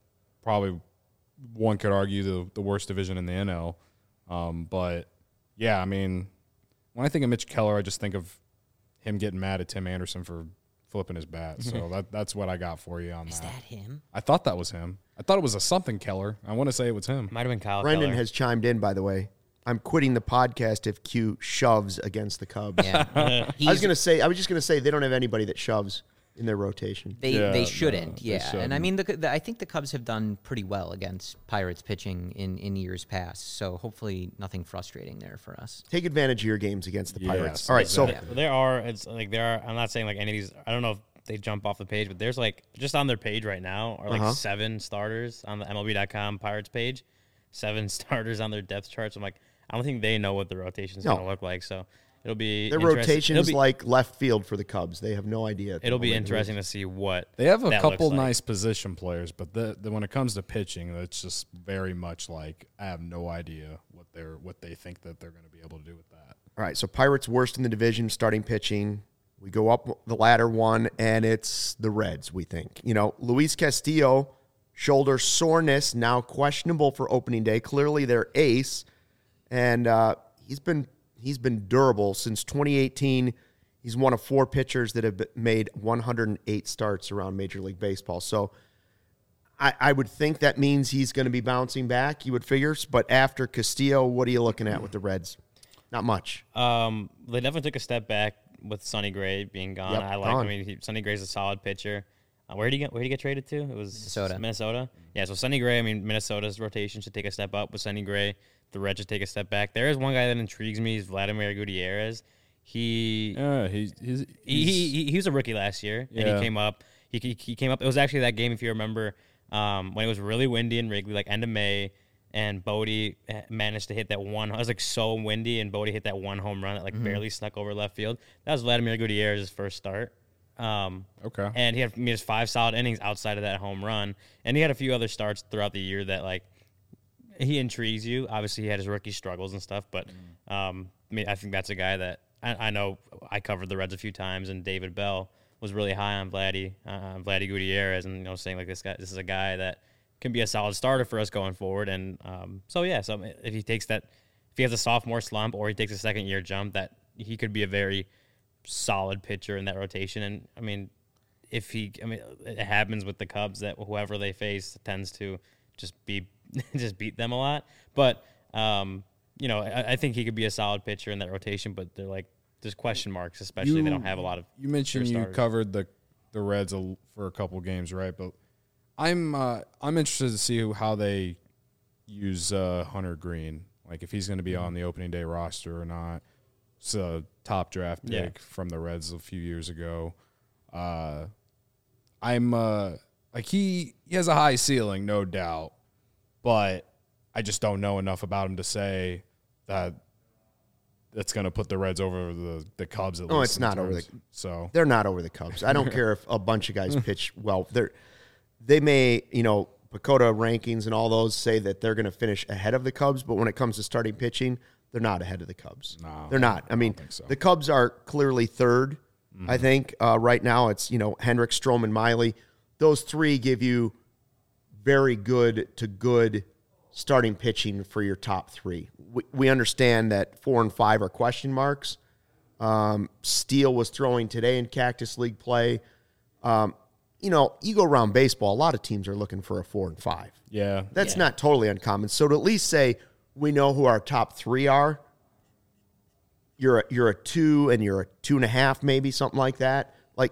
one could argue the worst division in the NL. But, yeah, I mean, when I think of Mitch Keller, I just think of him getting mad at Tim Anderson for flipping his bat. So that's what I got for you on that. Is that him? I thought that was him. I thought it was a something Keller. I want to say it was him. Might have been Kyle Brendan Keller. has chimed in, by the way. I'm quitting the podcast if Q shoves against the Cubs. Yeah. I was just gonna say they don't have anybody that shoves in their rotation. They shouldn't. They shouldn't. And I mean, I think the Cubs have done pretty well against Pirates pitching in years past. So hopefully nothing frustrating there for us. Take advantage of your games against the Pirates. Yes, All right, exactly. so there are. I'm not saying any of these. I don't know if they jump off the page, but there's just on their page right now are 7 starters on the MLB.com Pirates page. 7 starters on their depth charts. I'm I don't think they know what the rotation is going to look like. So it'll be their rotation is like left field for the Cubs. They have no idea. It'll be interesting to see what they have. A couple looks like. Nice position players, but when it comes to pitching, it's just very much I have no idea what they think that they're going to be able to do with that. All right, so Pirates worst in the division, starting pitching. We go up the ladder one, and it's the Reds, we think. Luis Castillo, shoulder soreness, now questionable for opening day. Clearly their ace, and he's been durable since 2018. He's one of 4 pitchers that have made 108 starts around Major League Baseball. So I would think that means he's going to be bouncing back, you would figure. But after Castillo, what are you looking at with the Reds? Not much. They definitely took a step back with Sonny Gray being gone. Yep, Sonny Gray's a solid pitcher. Where did he get traded to? It was Minnesota. Yeah, so Sonny Gray, Minnesota's rotation should take a step up with Sonny Gray. The Reds should take a step back. There is one guy that intrigues me, is Vladimir Gutierrez. He was a rookie last year, and he came up. He came up. It was actually that game, if you remember, when it was really windy in Wrigley, end of May, and Bodie managed to hit that one. It was so windy, and Bodie hit that one home run that barely snuck over left field. That was Vladimir Gutierrez's first start. Okay. And he had his 5 solid innings outside of that home run, and he had a few other starts throughout the year that he intrigues you. Obviously, he had his rookie struggles and stuff, but I think that's a guy that I know. I covered the Reds a few times, and David Bell was really high on Vladdy Gutierrez, and saying this is a guy that can be a solid starter for us going forward. And so if he takes that, if he has a sophomore slump or he takes a second year jump, that he could be a very solid pitcher in that rotation. And it happens with the Cubs that whoever they face tends to just beat them a lot. But I think he could be a solid pitcher in that rotation, but they're like there's question marks, especially they don't have a lot of. You mentioned you covered the Reds for a couple games, right? But I'm interested to see how they use Hunter Green, like if he's going to be on the opening day roster or not. It's a top draft pick from the Reds a few years ago. I'm like he has a high ceiling, no doubt, but I just don't know enough about him to say that that's going to put the Reds over the Cubs. At least it's not over so they're not over the Cubs. I don't care if a bunch of guys pitch well. They may Pacoda rankings and all those say that they're going to finish ahead of the Cubs, but when it comes to starting pitching, they're not ahead of the Cubs. No, they're not. I mean, so. The Cubs are clearly third. I think right now it's Hendricks, Stroman, Miley. Those three give you very good to good starting pitching for your top three. We understand that 4 and 5 are question marks. Steele was throwing today in Cactus League play. You go around baseball, a lot of teams are looking for a 4 and 5. Yeah. That's not totally uncommon. So to at least say we know who our top three are, you're a 2 and you're a 2.5, maybe something like that. Like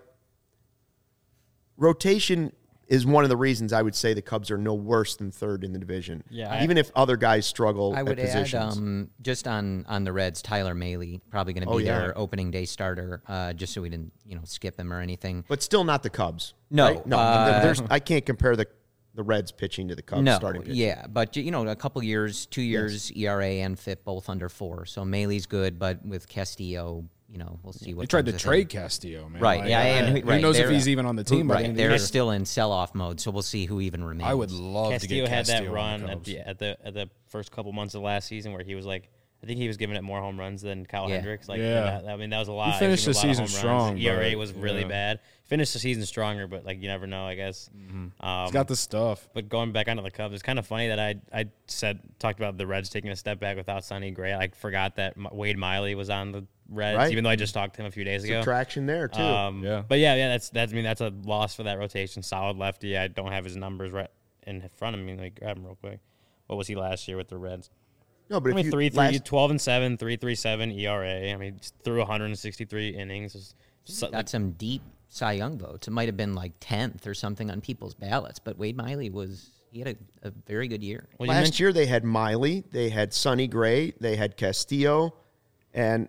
rotation is one of the reasons I would say the Cubs are no worse than third in the division. Yeah, even if other guys struggle I would at positions. add just on the Reds, Tyler Mahle probably going to be their opening day starter, just so we didn't skip him or anything. But still not the Cubs. No, right? No. I can't compare the Reds pitching to the Cubs starting pitching. Yeah, but a couple years, 2 years, ERA and FIP both under 4. So Mahle's good, but with Castillo, we'll see what. They tried to trade Castillo, man. Right? Who knows if he's even on the team? Right, they're still in sell-off mode, so we'll see who even remains. I would love Castillo to get Castillo had that run at the first couple months of last season where he was like, I think he was giving it more home runs than Kyle Hendricks. Like, that was a lot. He finished the season strong. ERA was really bad. Finished the season stronger, but you never know, I guess. He's got the stuff. But going back onto the Cubs, it's kind of funny that I talked about the Reds taking a step back without Sonny Gray. I forgot that Wade Miley was on the Reds, even though I just talked to him a few days ago. Traction there too. But that's a loss for that rotation. Solid lefty. I don't have his numbers right in front of me. Let me grab him real quick. What was he last year with the Reds? No, but 12 and 7, 3.37 ERA. I mean, threw 163 innings. Got some deep Cy Young votes. It might have been like 10th or something on people's ballots, but Wade Miley had a very good year. Well, last year they had Miley, they had Sonny Gray, they had Castillo, and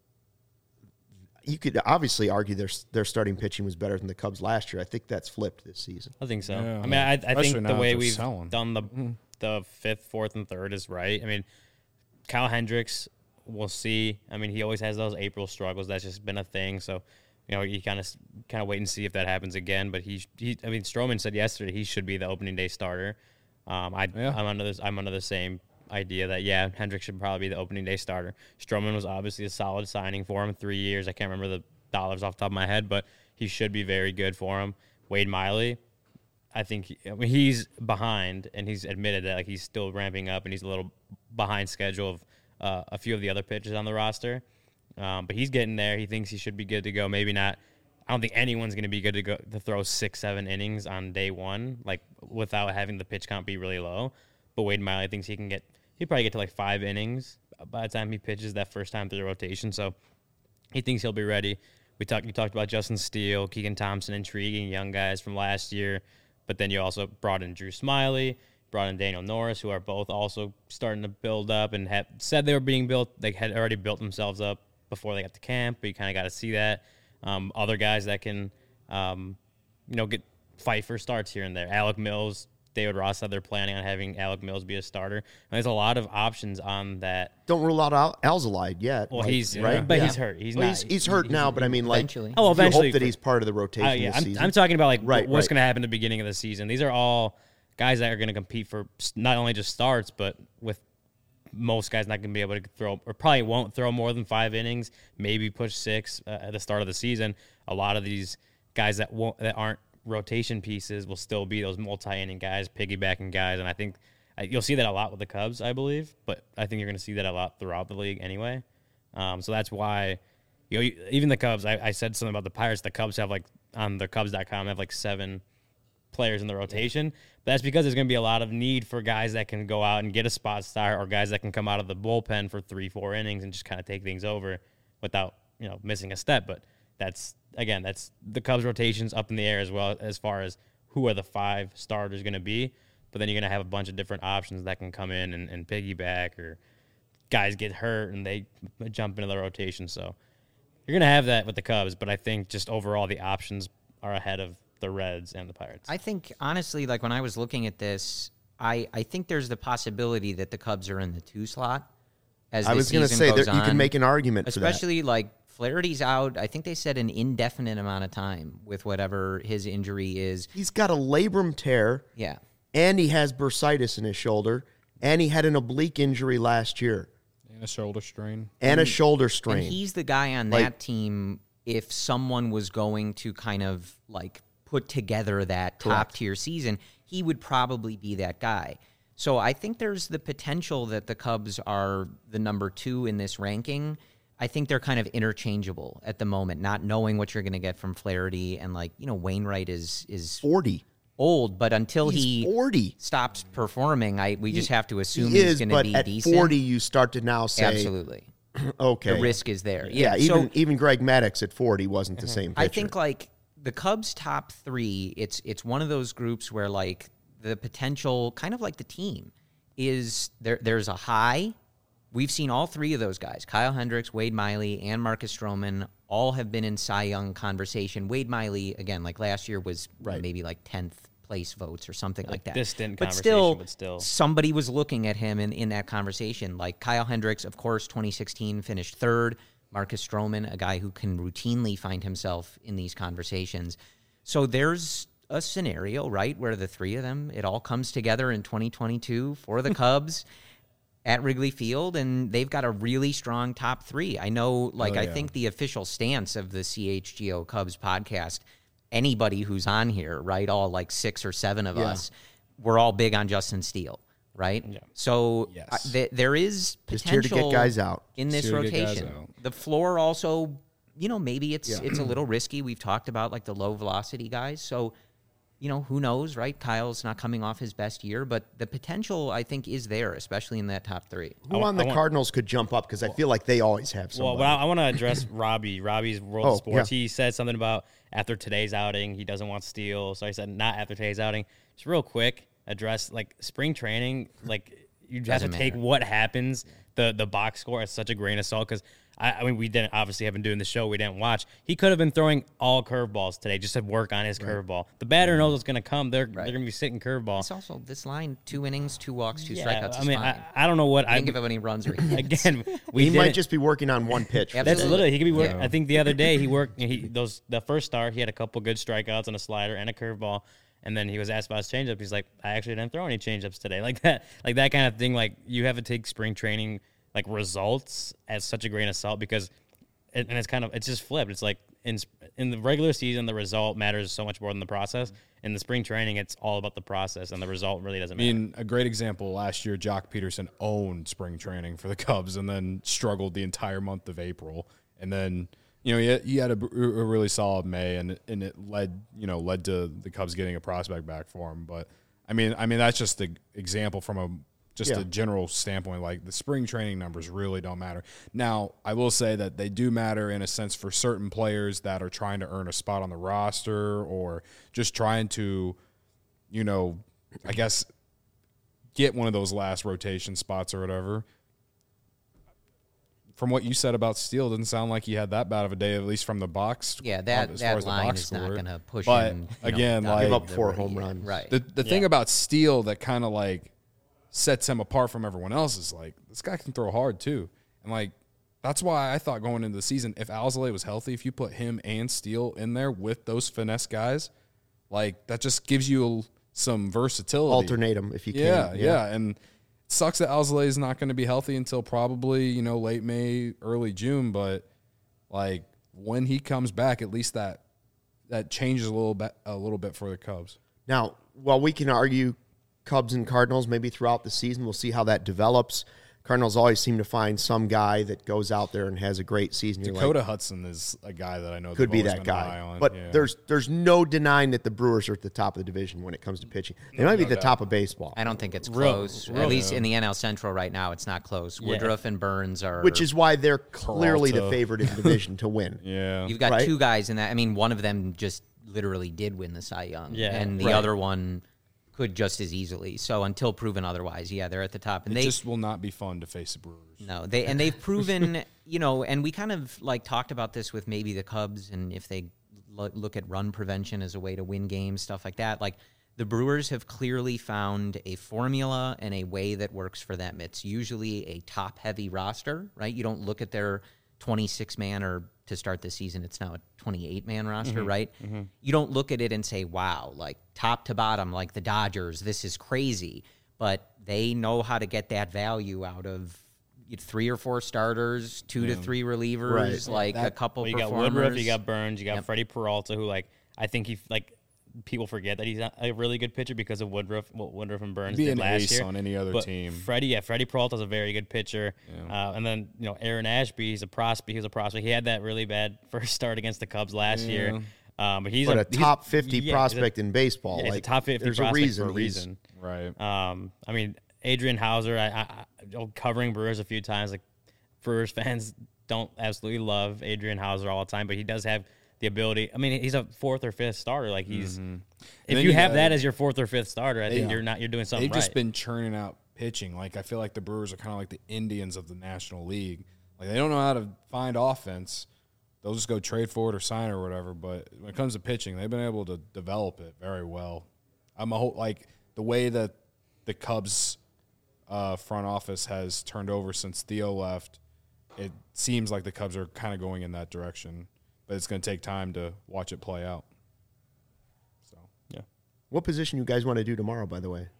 you could obviously argue their starting pitching was better than the Cubs last year. I think that's flipped this season. I think so. Yeah. I mean, I think the way we've selling. done the 5th, 4th, and 3rd is right. I mean, Kyle Hendricks, we'll see. I mean, he always has those April struggles. That's just been a thing. So, you kind of wait and see if that happens again. But Stroman said yesterday he should be the opening day starter. I'm under the same idea that Hendricks should probably be the opening day starter. Stroman was obviously a solid signing for him, 3 years. I can't remember the dollars off the top of my head, but he should be very good for him. Wade Miley, I think he's behind, and he's admitted that he's still ramping up, and he's a little behind schedule of a few of the other pitchers on the roster. But he's getting there. He thinks he should be good to go. Maybe not. I don't think anyone's going to be good to go to throw 6-7 innings on day one, without having the pitch count be really low. But Wade Miley thinks he'd probably get to 5 innings by the time he pitches that first time through the rotation. So he thinks he'll be ready. You talked about Justin Steele, Keegan Thompson, intriguing young guys from last year. But then you also brought in Drew Smyly, brought in Daniel Norris, who are both also starting to build up and have said they were being built. They had already built themselves up before they got to camp, but you kind of got to see that. Other guys that can, fight for starts here and there. Alec Mills, David Ross said they're planning on having Alec Mills be a starter. And there's a lot of options on that. Don't rule out Alzolide yet. Well, he's right, but he's hurt. He's hurt now, but I mean, eventually. Eventually, hope that he's part of the rotation this season. I'm talking about what's going to happen at the beginning of the season. These are all guys that are going to compete for not only just starts, but with most guys not going to be able to throw, or probably won't throw more than 5 innings, maybe push 6 at the start of the season. A lot of these guys that aren't rotation pieces will still be those multi-inning guys, piggybacking guys, and I think you'll see that a lot with the Cubs, I believe, but I think you're going to see that a lot throughout the league anyway. So that's why, even the Cubs, I said something about the Pirates. The Cubs have on the Cubs.com have 7 players in the rotation. But that's because there's going to be a lot of need for guys that can go out and get a spot start, or guys that can come out of the bullpen for 3-4 innings and just kind of take things over without, missing a step. But that's the Cubs rotations up in the air as well, as far as who are the 5 starters going to be. But then you're going to have a bunch of different options that can come in and piggyback, or guys get hurt and they jump into the rotation. So you're going to have that with the Cubs, but I think just overall the options are ahead of the Reds and the Pirates. I think, honestly, like when I was looking at this, I think there's the possibility that the Cubs are in the 2 slot as I was going to say that you can make an argument for that. Especially like Flaherty's out, I think they said an indefinite amount of time with whatever his injury is. He's got a labrum tear. Yeah. And he has bursitis in his shoulder. And he had an oblique injury last year. And a shoulder strain. And a shoulder strain. And he's the guy on that team, if someone was going to kind of like put together that top-tier season, he would probably be that guy. So I think there's the potential that the Cubs are the number 2 in this ranking. I think they're kind of interchangeable at the moment, not knowing what you're going to get from Flaherty. And, Wainwright is 40. Old, but until he's he 40. stops performing, we just have to assume he's going to be decent. At 40, you start to now say... Absolutely. Okay. The risk is there. Yeah, even Greg Maddux at 40 wasn't the same pitcher. I think, the Cubs' top 3, it's one of those groups where, the potential, kind of like the team, is there's a high. We've seen all 3 of those guys, Kyle Hendricks, Wade Miley, and Marcus Stroman, all have been in Cy Young conversation. Wade Miley, again, last year was maybe 10th place votes or something like that. Distant but conversation, but still. Somebody was looking at him in that conversation. Like Kyle Hendricks, of course, 2016 finished 3rd. Marcus Stroman, a guy who can routinely find himself in these conversations. So there's a scenario, right, where the 3 of them, it all comes together in 2022 for the Cubs at Wrigley Field, and they've got a really strong top 3. I know, I think the official stance of the CHGO Cubs podcast, anybody who's on here, right, all 6 or 7 of us, we're all big on Justin Steele, right? Yeah. So there is potential just here to get guys out in this rotation. The floor also, maybe it's a little risky. We've talked about the low velocity guys, so who knows, right? Kyle's not coming off his best year, but the potential, I think, is there, especially in that top 3. Who on the Cardinals could jump up? Because I feel like they always have somebody. Well, I want to address Robbie. Robbie's World of Sports. Yeah. He said something about after today's outing, he doesn't want Steele. So I said, not after today's outing. Just real quick, address, spring training, you have to take what happens, the box score as such a grain of salt, because I mean, we didn't obviously have been doing the show. We didn't watch. He could have been throwing all curveballs today, just to work on his curveball. The batter knows what's going to come. They're going to be sitting curveball. It's also this line: 2 innings, 2 walks, 2 strikeouts. I mean, I don't know what I didn't give up any runs or again. He might just be working on one pitch. That's literally he could be working. I think the other day he worked. The first start he had a couple good strikeouts and a slider and a curveball. And then he was asked about his changeup. He's like, I actually didn't throw any changeups today. Like that kind of thing. You have to take spring training results as such a grain of salt, because it's just flipped. It's in the regular season, the result matters so much more than the process. In the spring training, it's all about the process, and the result really doesn't matter. I mean, a great example last year, Jock Peterson owned spring training for the Cubs and then struggled the entire month of April. And then, he had a really solid May, and it led to the Cubs getting a prospect back for him. But I mean, that's just the example from a general standpoint. The spring training numbers really don't matter. Now, I will say that they do matter in a sense for certain players that are trying to earn a spot on the roster, or just trying to, I guess, get one of those last rotation spots or whatever. From what you said about Steele, it doesn't sound like he had that bad of a day, at least from the box. Yeah, that line is not going to push but him. Again, give up 4 home runs. Right. The thing about Steele that kind of sets him apart from everyone else is this guy can throw hard too, and that's why I thought going into the season, if Alzolay was healthy, if you put him and Steele in there with those finesse guys, that just gives you some versatility. Alternate them if you can. Yeah, and it sucks that Alzolay is not going to be healthy until probably late May, early June, but when he comes back, at least that changes a little bit for the Cubs. Now, while we can argue Cubs and Cardinals maybe throughout the season, we'll see how that develops. Cardinals always seem to find some guy that goes out there and has a great season. Dakota Hudson is a guy that I know could be that guy. But there's no denying that the Brewers are at the top of the division when it comes to pitching. They might be at the top of baseball. I don't think it's close. At least in the NL Central right now, it's not close. Woodruff and Burns are... Which is why they're clearly the favorite in the division to win. Yeah. You've got two guys in that. I mean, one of them just literally did win the Cy Young. Yeah. And the other one could just as easily. So until proven otherwise, they're at the top. And it just will not be fun to face the Brewers. No, they've proven, and we kind of like talked about this with maybe the Cubs, and if they look at run prevention as a way to win games, stuff like that. Like the Brewers have clearly found a formula and a way that works for them. It's usually a top-heavy roster, right? You don't look at their 26-man or to start the season, it's now a 28-man roster, right? Mm-hmm. You don't look at it and say, wow, like top to bottom, like the Dodgers, this is crazy. But they know how to get that value out of 3 or 4 starters, 2 to 3 relievers, a couple performers. You got Woodruff, you got Burns, you got Freddie Peralta, who I think people forget that he's not a really good pitcher because of Woodruff and Burns did last year. On any other team. Freddie Peralta's a very good pitcher. Yeah. And then, Aaron Ashby, he's a prospect. He had that really bad first start against the Cubs last year. But he's a top 50 prospect in baseball. He's a top 50 prospect for a reason. Right. I mean, Adrian Hauser, I covering Brewers a few times. Like, Brewers fans don't absolutely love Adrian Hauser all the time, but he does have the ability. I mean, he's a 4th or 5th starter. Like he's, if you have that as your 4th or 5th starter, I think you're doing something right. They've just been churning out pitching. Like I feel like the Brewers are kind of like the Indians of the National League. Like they don't know how to find offense. They'll just go trade for it or sign it or whatever. But when it comes to pitching, they've been able to develop it very well. The way that the Cubs front office has turned over since Theo left, it seems like the Cubs are kind of going in that direction. But it's going to take time to watch it play out. So, yeah. What position you guys want to do tomorrow, by the way?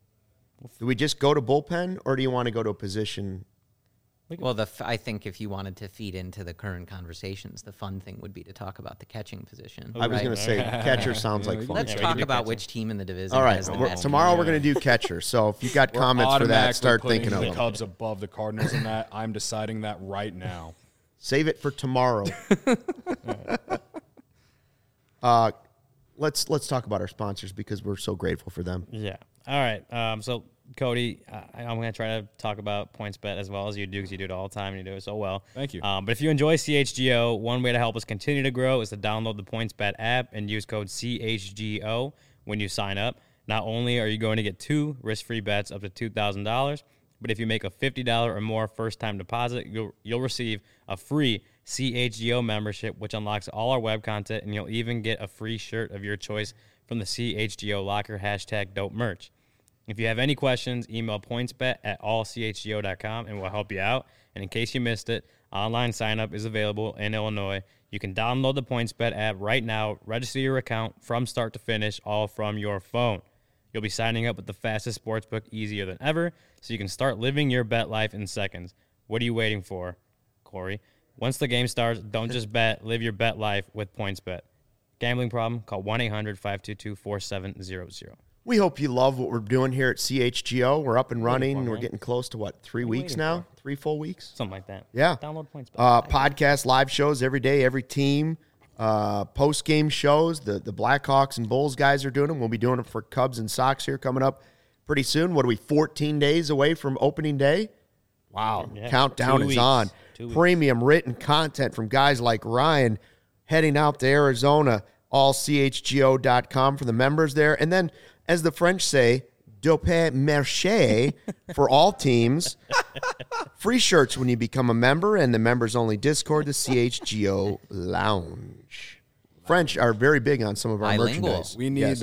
Do we just go to bullpen, or do you want to go to a position? Well, I think if you wanted to feed into the current conversations, the fun thing would be to talk about the catching position. I was going to say catcher sounds like fun. Let's talk about which team in the division. All right, tomorrow we're going to do catcher. So if you got comments for that, start thinking of the them. Cubs above the Cardinals in that. I'm deciding that right now. Save it for tomorrow. Let's talk about our sponsors because we're so grateful for them. Yeah. All right. So, Cody, I'm going to try to talk about PointsBet as well as you do because you do it all the time and you do it so well. Thank you. But if you enjoy CHGO, one way to help us continue to grow is to download the PointsBet app and use code CHGO when you sign up. Not only are you going to get 2 risk-free bets up to $2,000, but if you make a $50 or more first-time deposit, you'll receive a free CHGO membership, which unlocks all our web content, and you'll even get a free shirt of your choice from the CHGO locker #dope merch. If you have any questions, email pointsbet@allchgo.com, and we'll help you out. And in case you missed it, online sign-up is available in Illinois. You can download the PointsBet app right now, register your account from start to finish, all from your phone. You'll be signing up with the fastest sportsbook easier than ever, so you can start living your bet life in seconds. What are you waiting for, Corey? Once the game starts, don't just bet. Live your bet life with PointsBet. Gambling problem? Call 1-800-522-4700. We hope you love what we're doing here at CHGO. We're up and running. We're getting close to, 3 weeks now? 3 full weeks? Something like that. Yeah. Download PointsBet. Podcast, live shows every day, every team. Post-game shows. The Blackhawks and Bulls guys are doing them. We'll be doing them for Cubs and Sox here coming up pretty soon. What are we, 14 days away from opening day? Wow. Yeah. Countdown is on. Premium written content from guys like Ryan heading out to Arizona, allchgo.com for the members there. And then, as the French say, dope marché for all teams. Free shirts when you become a member, and the members-only Discord, the CHGO Lounge. French are very big on some of our merchandise. We need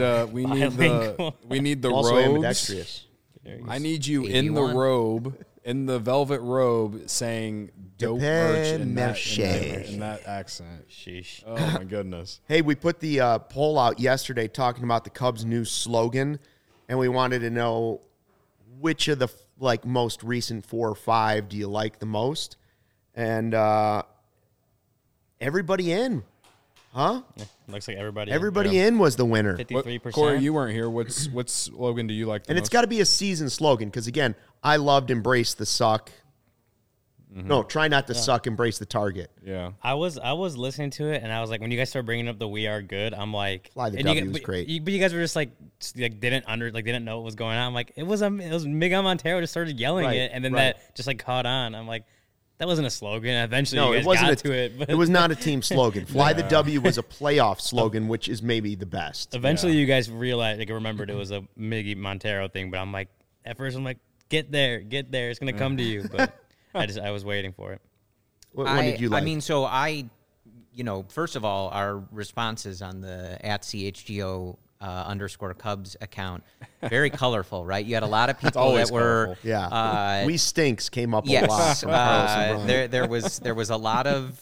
the also robes. Ambidextrous. I need you in the robe, in the velvet robe, saying dope merch in that accent. Sheesh. Oh my goodness. Hey, we put the poll out yesterday talking about the Cubs' new slogan, and we wanted to know which of the most recent 4 or 5 do you like the most? And everybody in. Huh? Yeah, looks like everybody. Everybody in was the winner. 53%. Corey, you weren't here. What slogan do you like the And most? it's got to be a season slogan because, again, I loved Embrace the Suck. No, try not to suck, embrace the target. Yeah. I was listening to it, and I was like, when you guys start bringing up the "We Are Good," I'm like, Fly the and W you, was but great. But you guys were just like didn't know what was going on. I'm like, it was Miguel Montero just started yelling Right, it, and then right. that just like caught on. I'm like, that wasn't a slogan. Eventually, No, you guys it wasn't got to it. But It was not a team slogan. Fly the W was a playoff slogan, which is maybe the best. eventually, you guys realized, like, remembered it was a Miggy Montero thing. But I'm like, at first, I'm like, get there, it's gonna come to you. But I was waiting for it. What one did you like? I mean, so first of all, our responses on the @CHGO _ Cubs account, very colorful, right? You had a lot of people always that were, yeah. We Stinks came up a lot. yes, From Carlos and Brian. there was a lot of,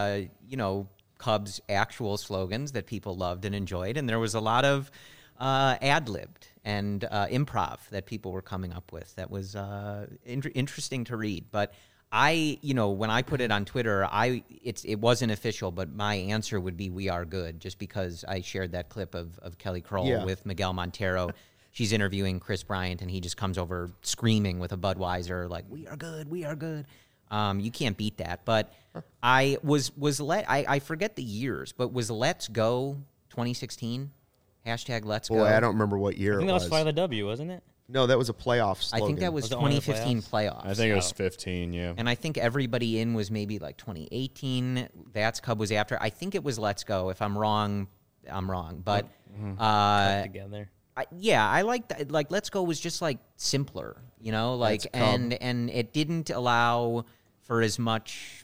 Cubs actual slogans that people loved and enjoyed, and there was a lot of ad-libbed and improv that people were coming up with. That was interesting to read, but when I put it on Twitter, it wasn't official, but my answer would be "We Are Good," just because I shared that clip of Kelly Kroll with Miguel Montero. She's interviewing Chris Bryant, and he just comes over screaming with a Budweiser, like, "We are good, we are good." You can't beat that. But I I forget the years, but was Let's Go 2016? Hashtag Let's Go. Boy, I don't remember what year I think it that was. was Fly the W, wasn't it? No, that was a playoff I slogan. think that was Was it only the 2015 playoffs. I think it was 15, yeah. And I think everybody in was maybe like 2018. That's Cub was after. I think it was Let's Go. If I'm wrong, I'm wrong. But Together. I like that. Like Let's Go was just like simpler, That's Cub. and it didn't allow for as much,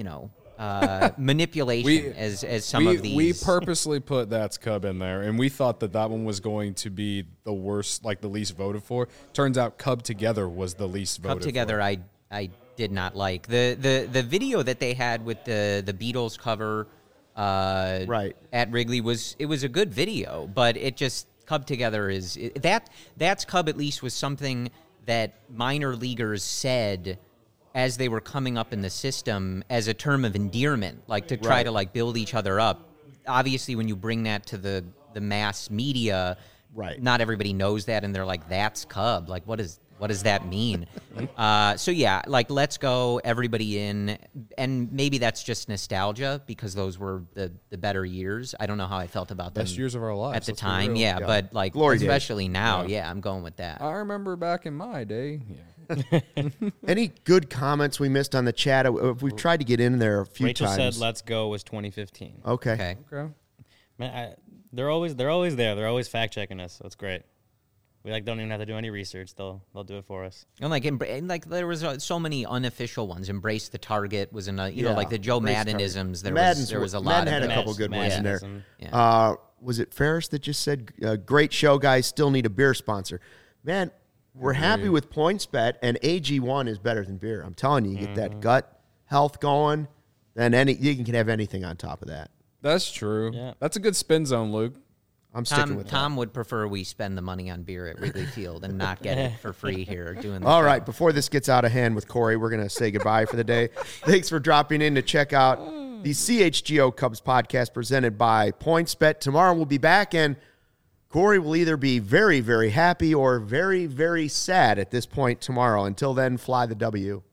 manipulation as some of these. We purposely put That's Cub in there, and we thought that one was going to be the worst, like the least voted for. Turns out Cub Together was the least voted Cub Together, for. I did not like the video that they had with the Beatles cover. Right. At Wrigley was a good video, but it just Cub Together that's Cub at least was something that minor leaguers said as they were coming up in the system as a term of endearment, like to try to like build each other up. Obviously, when you bring that to the mass media, not everybody knows that, and they're like, "That's Cub." Like, what does that mean? Like Let's Go, everybody in, and maybe that's just nostalgia because those were the better years. I don't know how I felt about them Best years of our lives at the let's be time. real. Yeah, but like Glory days. especially now, I'm going with that. I remember back in my day. Yeah. Any good comments we missed on the chat? We've tried to get in there a few Rachel times. said, "Let's Go" was 2015. Okay. Man, they're always there. They're always fact checking us, so it's great. We don't even have to do any research. They'll do it for us. And like there was so many uneffecial ones. Embrace the Target was like the Joe Embrace Maddenisms. Target. There was a lot Madden of had a those. couple good ones in there. Yeah. Was it Ferris that just said, "Great show, guys. Still need a beer sponsor." Man, we're happy with PointsBet, and AG1 is better than beer. I'm telling you, you get that gut health going, then you can have anything on top of that. That's true. Yeah. That's a good spin zone, Luke. I'm sticking with Tom would prefer we spend the money on beer at Wrigley Field and not get it for free here doing the All show. right, before this gets out of hand with Corey, we're going to say goodbye for the day. Thanks for dropping in to check out the CHGO Cubs podcast presented by PointsBet. Tomorrow we'll be back, and Corey will either be very, very happy or very, very sad at this point tomorrow. Until then, fly the W.